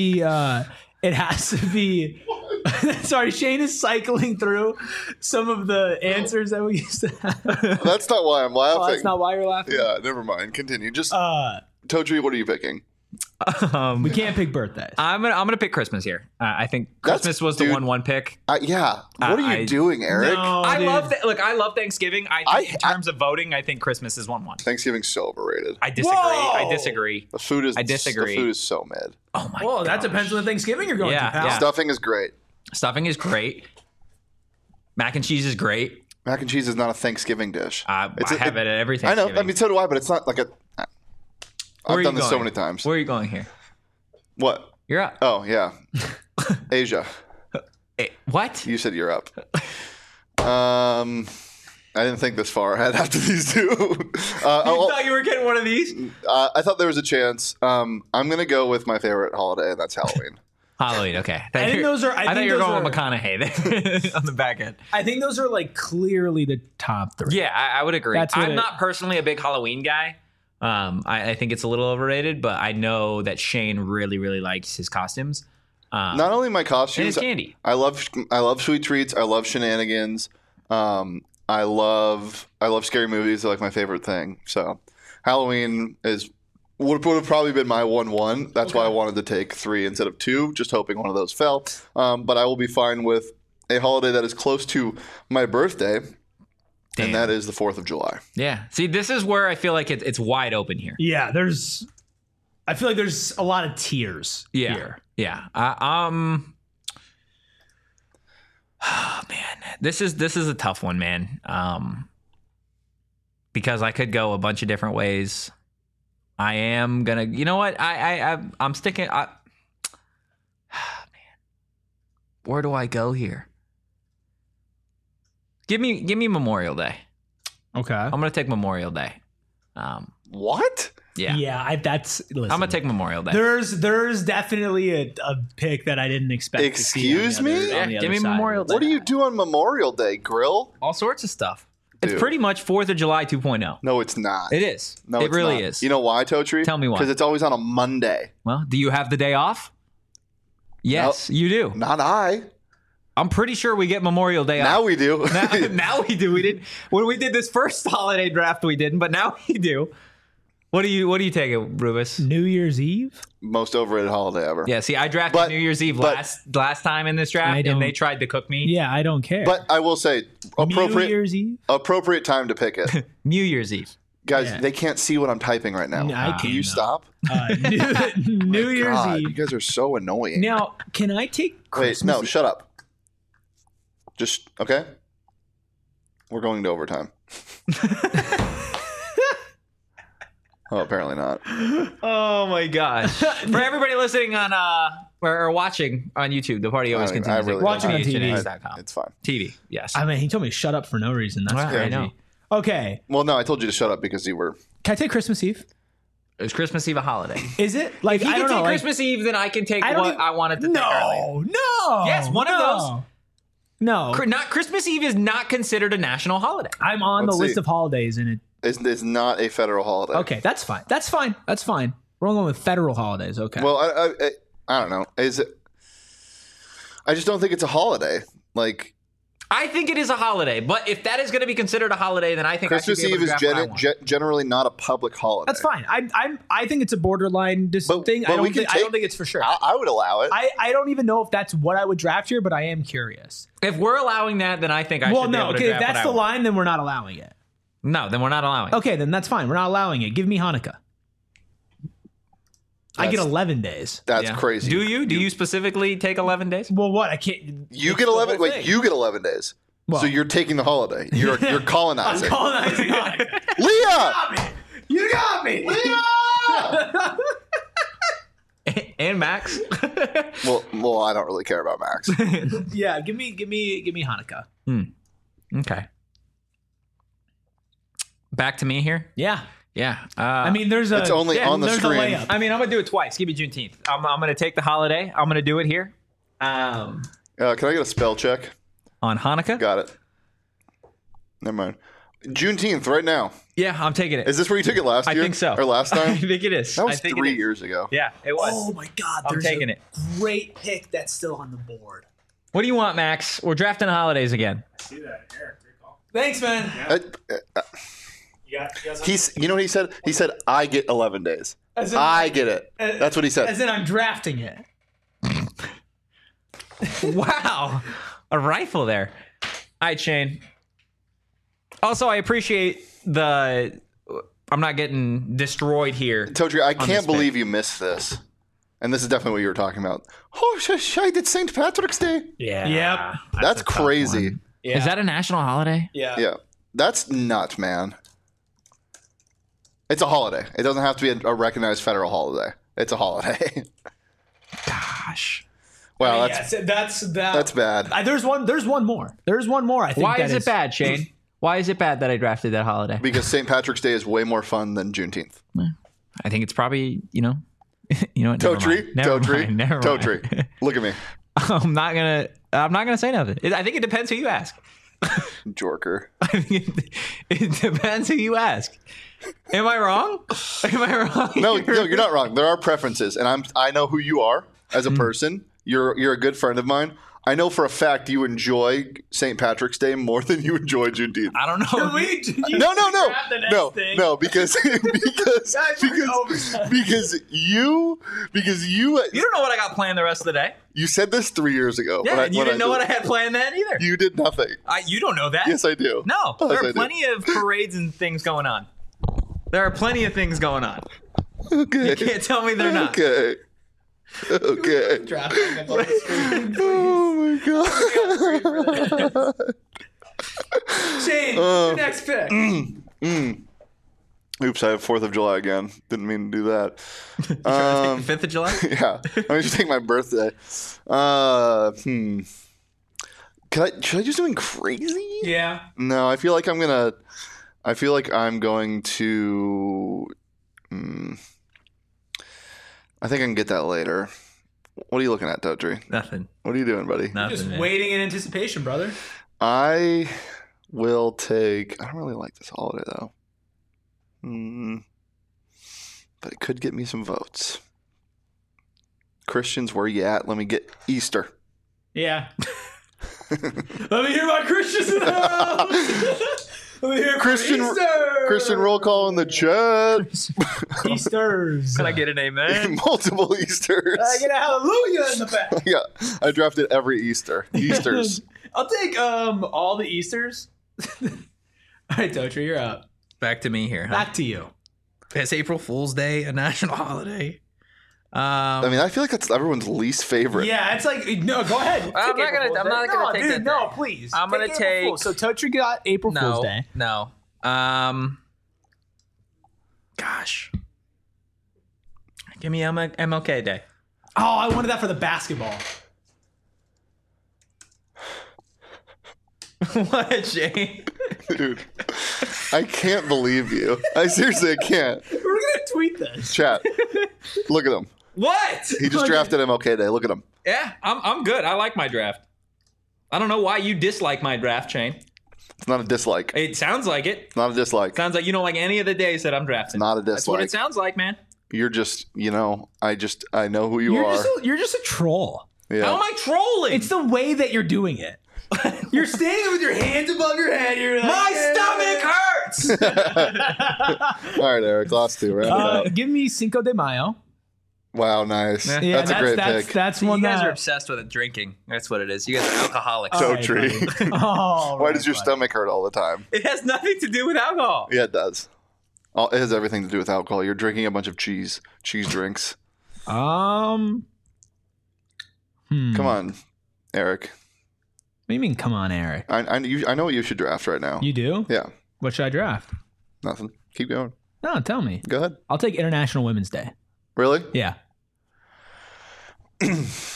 S1: be. Sorry, Shane is cycling through some of the answers that we used to have.
S3: That's not why I'm laughing.
S1: Oh, that's not why you're laughing?
S3: Yeah, never mind. Continue. Just Totri, what are you picking?
S1: We can't pick birthdays.
S2: I'm gonna pick Christmas here. I think Christmas was the 1-1 pick.
S3: Yeah. What are you doing, Eric?
S1: No,
S2: I love Thanksgiving. In terms of voting, I think Christmas is 1-1.
S3: Thanksgiving's so overrated.
S2: I disagree.
S1: Whoa!
S2: I disagree.
S3: The food is.
S2: I disagree.
S3: The food is so mid.
S2: Oh my.
S1: Whoa, that depends on the Thanksgiving you're going to, pal.
S2: Yeah.
S3: Stuffing is great.
S2: Stuffing is great. Mac and cheese is great.
S3: Mac and cheese is not a Thanksgiving dish.
S2: I have it at every
S3: I
S2: Thanksgiving.
S3: know. I mean, so do I. But it's not like a. I've done this so many times.
S2: Where are you going here?
S3: What?
S2: You're up.
S3: Oh yeah, Asia.
S2: Hey, what?
S3: You said you're up. I didn't think this far ahead after these two.
S2: You thought you were getting one of these?
S3: I thought there was a chance. I'm gonna go with my favorite holiday, and that's Halloween.
S2: Halloween, okay.
S1: I think those are.
S2: I thought you were going with McConaughey on the back end.
S1: I think those are like clearly the top 3.
S2: Yeah, I would agree. I'm not personally a big Halloween guy. I think it's a little overrated, but I know that Shane really, really likes his costumes.
S3: Not only my costumes,
S2: and his candy.
S3: I love sweet treats. I love shenanigans. I love scary movies. They're like my favorite thing. So Halloween would have probably been my 1-1. That's why I wanted to take 3 instead of 2, just hoping one of those fell. But I will be fine with a holiday that is close to my birthday. Damn. And that is the 4th of July.
S2: Yeah. See, this is where I feel like it's wide open here.
S1: Yeah, I feel like there's a lot of tiers here.
S2: Yeah. Oh man, this is a tough one, man. Because I could go a bunch of different ways. I am gonna. You know what? I'm sticking. Man, where do I go here? Give me Memorial Day.
S1: Okay.
S2: I'm gonna take Memorial Day.
S3: What?
S2: Yeah.
S1: Yeah. Listen,
S2: I'm gonna take Memorial Day.
S1: There's definitely a pick that I didn't expect.
S3: Excuse
S1: to see
S3: me?
S2: Give me Memorial Day.
S3: What do you do on Memorial Day? Grill?
S2: All sorts of stuff.
S3: Dude.
S2: It's pretty much 4th of July 2.0.
S3: No, it's not.
S2: It is.
S3: No,
S2: it
S3: it's
S2: really
S3: not.
S2: is.
S3: You know why, Totri?
S2: Tell me why.
S3: Because it's always on a Monday.
S2: Well, do you have the day off? Yes, you do.
S3: Not I.
S2: I'm pretty sure we get Memorial Day off.
S3: Now we do.
S2: Now we do. We did when we did this first holiday draft. We didn't, but now we do. What do you take it, Rubus?
S1: New Year's Eve?
S3: Most overrated holiday ever.
S2: Yeah, see, I drafted New Year's Eve last time in this draft, and they tried to cook me.
S1: Yeah, I don't care.
S3: But I will say,
S1: New Year's Eve?
S3: Appropriate time to pick it.
S2: New Year's Eve.
S3: Guys, they can't see what I'm typing right now.
S1: I can't.
S3: Can you stop?
S1: New Year's Eve.
S3: You guys are so annoying.
S1: Now, can I take Christmas?
S3: Wait, no, shut up. Just, okay? We're going to overtime. Oh, apparently not.
S2: Oh my gosh! For everybody listening on or watching on YouTube, the party always continues.
S3: Really
S1: watching on TV.
S3: It's fine.
S2: TV, yes.
S1: I mean, he told me to shut up for no reason. That's crazy.
S2: I know.
S1: Okay.
S3: Well, no, I told you to shut up because you were.
S1: Can I take Christmas Eve?
S2: Is Christmas Eve a holiday?
S1: Is it? Like,
S2: if you
S1: I don't
S2: can take
S1: know,
S2: Christmas Eve, then I can take I wanted to take earlier.
S1: No.
S2: Yes, one of those.
S1: No.
S2: Not Christmas Eve is not considered a national holiday.
S1: I'm on the list of holidays, and
S3: it's not a federal holiday.
S1: Okay, that's fine. We're going with federal holidays. Okay.
S3: Well, I don't know. Is it? I just don't think it's a holiday. Like,
S2: I think it is a holiday, but if that is going to be considered a holiday, then I think
S3: Christmas Eve is generally not a public holiday.
S1: That's fine. I think it's a borderline thing. I don't think it's for sure.
S3: I would allow it.
S1: I don't even know if that's what I would draft here, but I am curious.
S2: If we're allowing that, then I think I should be able to draft
S1: if that's the line, then we're not allowing it.
S2: No, then we're not allowing it.
S1: Okay, then that's fine. We're not allowing it. Give me Hanukkah. I get 11 days.
S3: That's crazy.
S2: Do you? Do you specifically take 11 days?
S1: Well, what? I can't.
S3: You get 11. Wait, you get 11 days. Well, so you're taking the holiday. You're colonizing.
S1: I'm colonizing Hanukkah.
S3: Leah!
S1: You got me.
S3: Leah!
S2: And Max.
S3: well, I don't really care about Max.
S1: Yeah, give me Hanukkah.
S2: Okay. Back to me here.
S1: Yeah.
S2: Yeah.
S1: I mean,
S3: it's only on the screen.
S2: I mean, I'm going to do it twice. Give me Juneteenth. I'm going to take the holiday. I'm going to do it here.
S3: Can I get a spell check?
S2: On Hanukkah?
S3: Got it. Never mind. Juneteenth right now.
S2: Yeah, I'm taking it.
S3: Is this where you took it last year?
S2: I think so.
S3: Or last time?
S2: I think it is.
S3: That was 3 years ago.
S2: Yeah, it was.
S1: Oh, my God.
S2: I'm taking it.
S1: Great pick that's still on the board.
S2: What do you want, Max? We're drafting holidays again.
S6: I see that. Eric, great call.
S1: Thanks, man.
S3: You know what he said? He said, I get 11 days. I get it. That's what he said.
S1: As in, I'm drafting it.
S2: Wow. A rifle there. All right, Shane. Also, I appreciate I'm not getting destroyed here.
S3: Totri, I can't believe you missed this. And this is definitely what you were talking about. Oh, I did St. Patrick's Day.
S2: Yeah.
S1: Yep.
S3: That's crazy.
S2: Yeah. Is that a national holiday?
S1: Yeah.
S3: Yeah. That's nuts, man. It's a holiday. It doesn't have to be a recognized federal holiday. It's a holiday.
S2: Gosh.
S3: Wow,
S1: that's
S3: bad.
S1: There's one more. There's one more. I think.
S2: Why is it bad, Shane? Why is it bad that I drafted that holiday?
S3: Because St. Patrick's Day is way more fun than Juneteenth.
S2: I think it's probably, you know what?
S3: Totri. Look at me.
S2: I'm not gonna say nothing. I think it depends who you ask.
S3: Jorker.
S2: I think it depends who you ask. Am I wrong?
S3: No, you're not wrong. There are preferences, and I know who you are as a person. You're a good friend of mine. I know for a fact you enjoy St. Patrick's Day more than you enjoy Juneteenth.
S2: I don't know.
S3: No, because you
S2: don't know what I got planned the rest of the day.
S3: You said this 3 years ago.
S2: Yeah, you didn't know what I had planned then either.
S3: You did nothing.
S2: You don't know that.
S3: Yes, I do.
S2: No, there are plenty of parades and things going on. There are plenty of things going on.
S3: Okay.
S2: You can't tell me they're not.
S3: Okay. Oh my god.
S1: Shane, your next pick.
S3: Oops, I have 4th of July again. Didn't mean to do that.
S2: You trying to take the 5th of July?
S3: Yeah. Let me just take my birthday. Should I do something crazy?
S1: Yeah.
S3: No, I feel like I'm going to I think I can get that later. What are you looking at, Totri?
S2: Nothing.
S3: What are you doing, buddy?
S2: Nothing.
S1: Just waiting in anticipation, brother.
S3: I will take... I don't really like this holiday, though. But it could get me some votes. Christians, where you at? Let me get Easter.
S1: Yeah. Let me hear my Christians in the house. Let me hear
S3: Christian roll call in the chat.
S1: Easters.
S2: Can I get an amen?
S3: Multiple Easters.
S1: I get a hallelujah in the back.
S3: Yeah, I drafted every Easter. Easters.
S1: I'll take all the Easters. All right, Totri, you're up.
S2: Back to me here. Huh?
S1: Back to you.
S2: Is April Fool's Day a national holiday?
S3: I mean, I feel like that's everyone's least favorite.
S1: Yeah, it's like, no, go ahead.
S2: I'm not gonna take that.
S1: No, please.
S2: I'm gonna take.
S1: So Totri got April Fool's Day.
S2: No. Gosh. Give me MLK Day.
S1: Oh, I wanted that for the basketball.
S2: What, Shane?
S3: Dude, I can't believe you. I seriously can't.
S1: We're gonna tweet this.
S3: Chat. Look at him.
S2: What?
S3: He just drafted MLK Day. Look at him.
S2: Yeah, I'm good. I like my draft. I don't know why you dislike my draft, Shane.
S3: It's not a dislike.
S2: It sounds like it.
S3: It's not a dislike.
S2: Sounds like you don't like any of the days that I'm drafting.
S3: Not a dislike.
S2: That's what it sounds like, man.
S3: You're just, I know who you are.
S1: You're just a troll.
S3: Yeah.
S2: How am I trolling?
S1: It's the way that you're doing it. You're standing with your hands above your head. You're like,
S2: My stomach hurts.
S3: All right, Eric, last two. Round it out.
S1: give me Cinco de Mayo.
S3: Wow, nice.
S1: Yeah,
S3: that's a great pick.
S1: That's one
S2: You guys
S1: that
S2: are obsessed with drinking. That's what it is. You guys are alcoholics.
S3: So
S1: All right,
S3: tree.
S1: buddy. Oh,
S3: Why
S1: right,
S3: does your
S1: buddy.
S3: stomach hurt all the time?
S2: It has nothing to do with alcohol.
S3: Yeah, it does. It has everything to do with alcohol. You're drinking a bunch of cheese drinks.
S1: Come
S3: Come on, Eric.
S1: What do you mean, come on, Eric?
S3: I know what you should draft right now.
S1: You do?
S3: Yeah,
S1: What should I draft?
S3: nothing. Keep going.
S1: No, tell me.
S3: Go ahead.
S1: I'll take International Women's Day.
S3: Really?
S1: Yeah.
S2: Should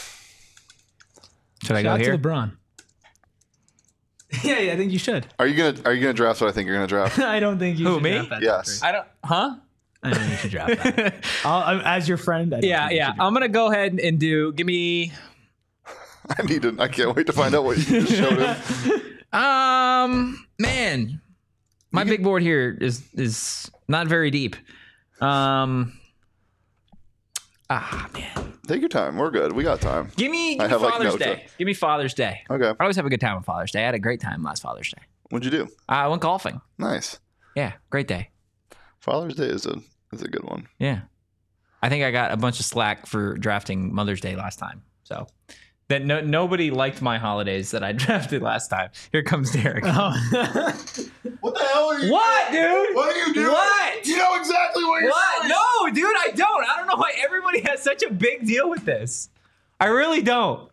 S2: I
S1: Shout
S2: go
S1: out
S2: here?
S1: to LeBron. yeah, I think you should.
S3: Are you gonna draft what I think you're gonna draft?
S1: I don't think you
S2: Who,
S1: should
S2: me?
S1: draft that.
S3: Yes.
S2: I don't. Huh?
S1: I don't think you should draft that. As your friend, I don't
S2: Yeah,
S1: think you
S2: yeah.
S1: should draft
S2: I'm gonna go ahead and give me.
S3: I can't wait to find out what you just showed him.
S2: Man, my big board here is not very deep. Man,
S3: Take your time. We're good. We got time.
S2: give me
S3: I have, like,
S2: Father's
S3: no
S2: Day.
S3: time.
S2: Give me Father's Day.
S3: Okay.
S2: I always have a good time on Father's Day. I had a great time last Father's Day.
S3: What'd you do?
S2: I went golfing.
S3: Nice.
S2: Yeah, great day.
S3: Father's Day is a good one.
S2: Yeah, I think I got a bunch of slack for drafting Mother's Day last time. So that nobody liked my holidays that I drafted last time. Here comes Derek.
S3: What the hell are you?
S2: What, dude?
S3: What are you doing?
S2: What?
S3: You know exactly what you're
S2: What?
S3: doing.
S2: No, dude, I don't. I don't know why everybody has such a big deal with this. I really don't.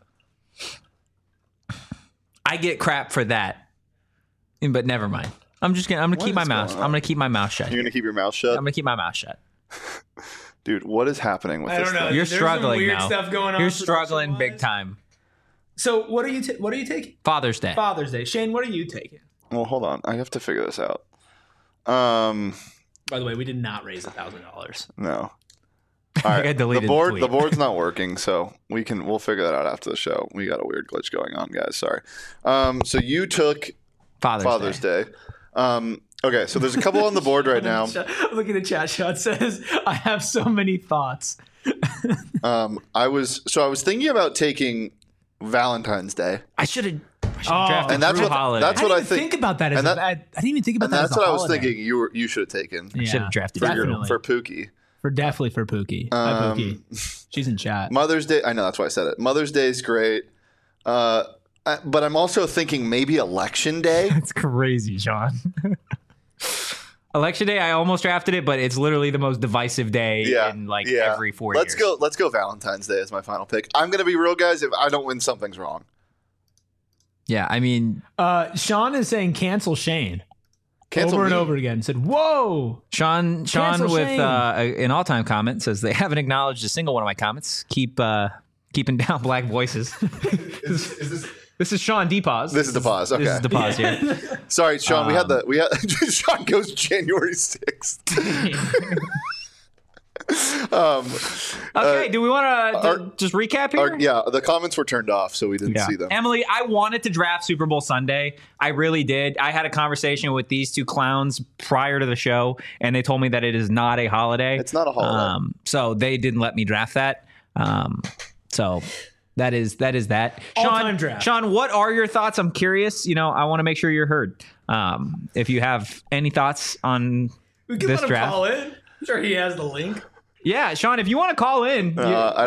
S2: I get crap for that. But never mind. I'm gonna keep my
S3: is
S2: mouth.
S3: going on?
S2: I'm gonna keep my mouth shut.
S3: You're gonna keep your mouth shut,
S2: I'm gonna keep my mouth shut.
S3: dude. What is happening with this? Thing?
S2: You're
S1: There's some
S2: struggling
S1: weird
S2: now.
S1: stuff going on
S2: You're struggling
S1: production-wise.
S2: big time.
S1: So what are you taking?
S2: Father's Day.
S1: Father's Day. Shane, what are you taking?
S3: Well, hold on. I have to figure this out.
S1: By the way, we did not raise $1,000.
S3: No. All
S2: I
S3: right.
S2: deleted
S3: the board.
S2: the tweet.
S3: The board's not working, so we'll figure that out after the show. We got a weird glitch going on, guys. Sorry. So you took Father's Day. Okay, so there's a couple on the board right now.
S1: Look at the chat. Shot says, "I have so many thoughts."
S3: I was thinking about taking Valentine's Day,
S2: I should have drafted
S3: and that's
S2: Drew
S3: what
S2: Holiday.
S3: that's
S1: I
S3: what
S1: didn't
S3: I
S1: even
S3: think.
S1: think about that.
S3: and that-
S1: I didn't even think about
S3: And
S1: that.
S3: that's
S1: as a
S3: what I was
S1: holiday.
S3: thinking. You should have taken
S1: Yeah.
S2: Should have drafted
S1: Definitely.
S3: for Pookie.
S1: Definitely for Pookie. Hi, Pookie. She's in chat.
S3: Mother's Day. I know that's why I said it. Mother's Day is great, but I'm also thinking maybe Election Day.
S2: That's crazy, Sean. Election Day, I almost drafted it, but it's literally the most divisive day in every 4 years.
S3: Let's go Valentine's Day as my final pick. I'm gonna be real, guys. If I don't win, something's wrong.
S2: Yeah, I mean,
S1: Sean is saying cancel Shane
S3: Cancel
S1: over and
S3: me.
S1: over again. Said, "Whoa."
S2: Sean
S1: Cancel
S2: with
S1: Shane.
S2: an all-time comment says they haven't acknowledged a single one of my comments. Keeping down black voices. This is Sean DePause.
S3: This is the pause. Okay.
S2: This is the pause here.
S3: Sorry, Sean. we had Sean goes January 6th.
S2: Okay, do we want to just recap here?
S3: Yeah, the comments were turned off, so we didn't see them.
S2: Emily, I wanted to draft Super Bowl Sunday. I really did. I had a conversation with these two clowns prior to the show, and they told me that it is not a holiday.
S3: It's not a holiday.
S2: So they didn't let me draft that. So that is that.
S1: All-time draft.
S2: Sean, what are your thoughts? I'm curious. I want to make sure you're heard. If you have any thoughts on
S1: We can
S2: this
S1: let him
S2: draft.
S1: call in. I'm sure he has the link.
S2: Yeah, Sean, if you want to call in.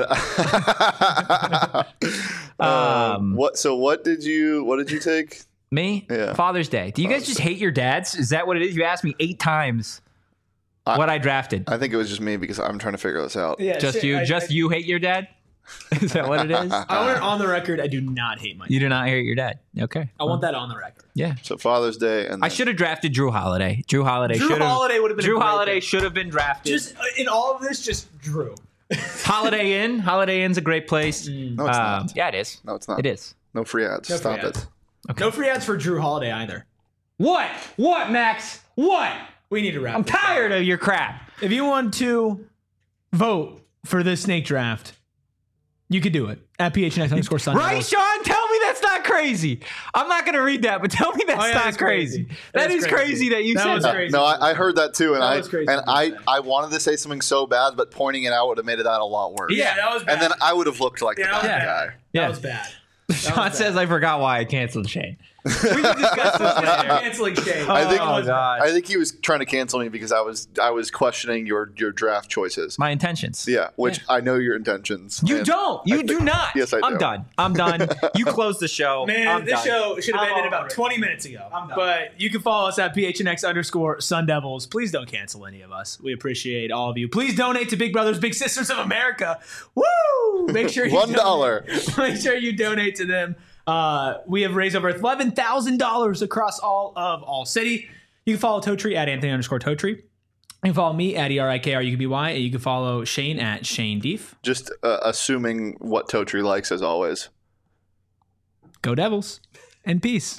S3: What did you take?
S2: Me?
S3: Yeah.
S2: Father's Day. Do you guys just hate your dads? Is that what it is? You asked me 8 times what I drafted.
S3: I think it was just me because I'm trying to figure this out.
S1: Yeah,
S2: Just
S1: Shane,
S2: you? You hate your dad? Is that what it is?
S1: I want it on the record. I do not hate my.
S2: You do not hate your dad. Okay.
S1: I want that on the record.
S2: Yeah.
S3: So Father's Day, and
S2: I
S3: then-
S2: should have drafted Drew Holiday. Drew Holiday
S1: Drew Holiday would have been a
S2: Drew
S1: great
S2: Holiday
S1: pick.
S2: should have been drafted.
S1: Just in all of this, just Drew.
S2: Holiday Inn. Holiday Inn's a great place.
S3: No, it's not.
S2: Yeah, it is.
S3: No, it's not.
S2: It is.
S3: No free ads.
S1: No
S3: Stop
S1: free ads.
S3: it.
S1: No free ads for Drew Holiday either.
S2: What? What, Max? What?
S1: We need to wrap.
S2: I'm
S1: this up.
S2: tired of your crap.
S1: If you want to vote for this snake draft, you could do it at PHNX_Sunday.
S2: Right, Sean? Tell Tell me that's not crazy. I'm not going to read that, but tell me that's not crazy. That is crazy that you said that.
S3: No, I heard that too, and
S1: I
S3: I wanted to say something so bad, but pointing it out would have made that a lot worse.
S1: Yeah, that was bad.
S3: And then I would have looked like the bad guy.
S1: That was bad.
S2: Sean says I forgot why I canceled Shane.
S1: We can discuss this later. Canceling Shane.
S3: I think he was trying to cancel me because I was questioning your draft choices.
S2: My intentions.
S3: Yeah, which I know your intentions.
S2: You don't. You do not.
S3: Yes, I do.
S2: I'm done. You close the show.
S1: Man, this show should have ended about 20 minutes ago. But you can follow us at PHNX_Sun Devils. Please don't cancel any of us. We appreciate all of you. Please donate to Big Brothers Big Sisters of America. Woo! Make sure you
S3: $1.
S1: Make sure you donate to them. We have raised over $11,000 across all city. You can follow Totree at Anthony_Totree. You can follow me at ERIKRUKBY. And you can follow Shane at Shane Deef.
S3: Just assuming what Totree likes as always.
S1: Go Devils and peace.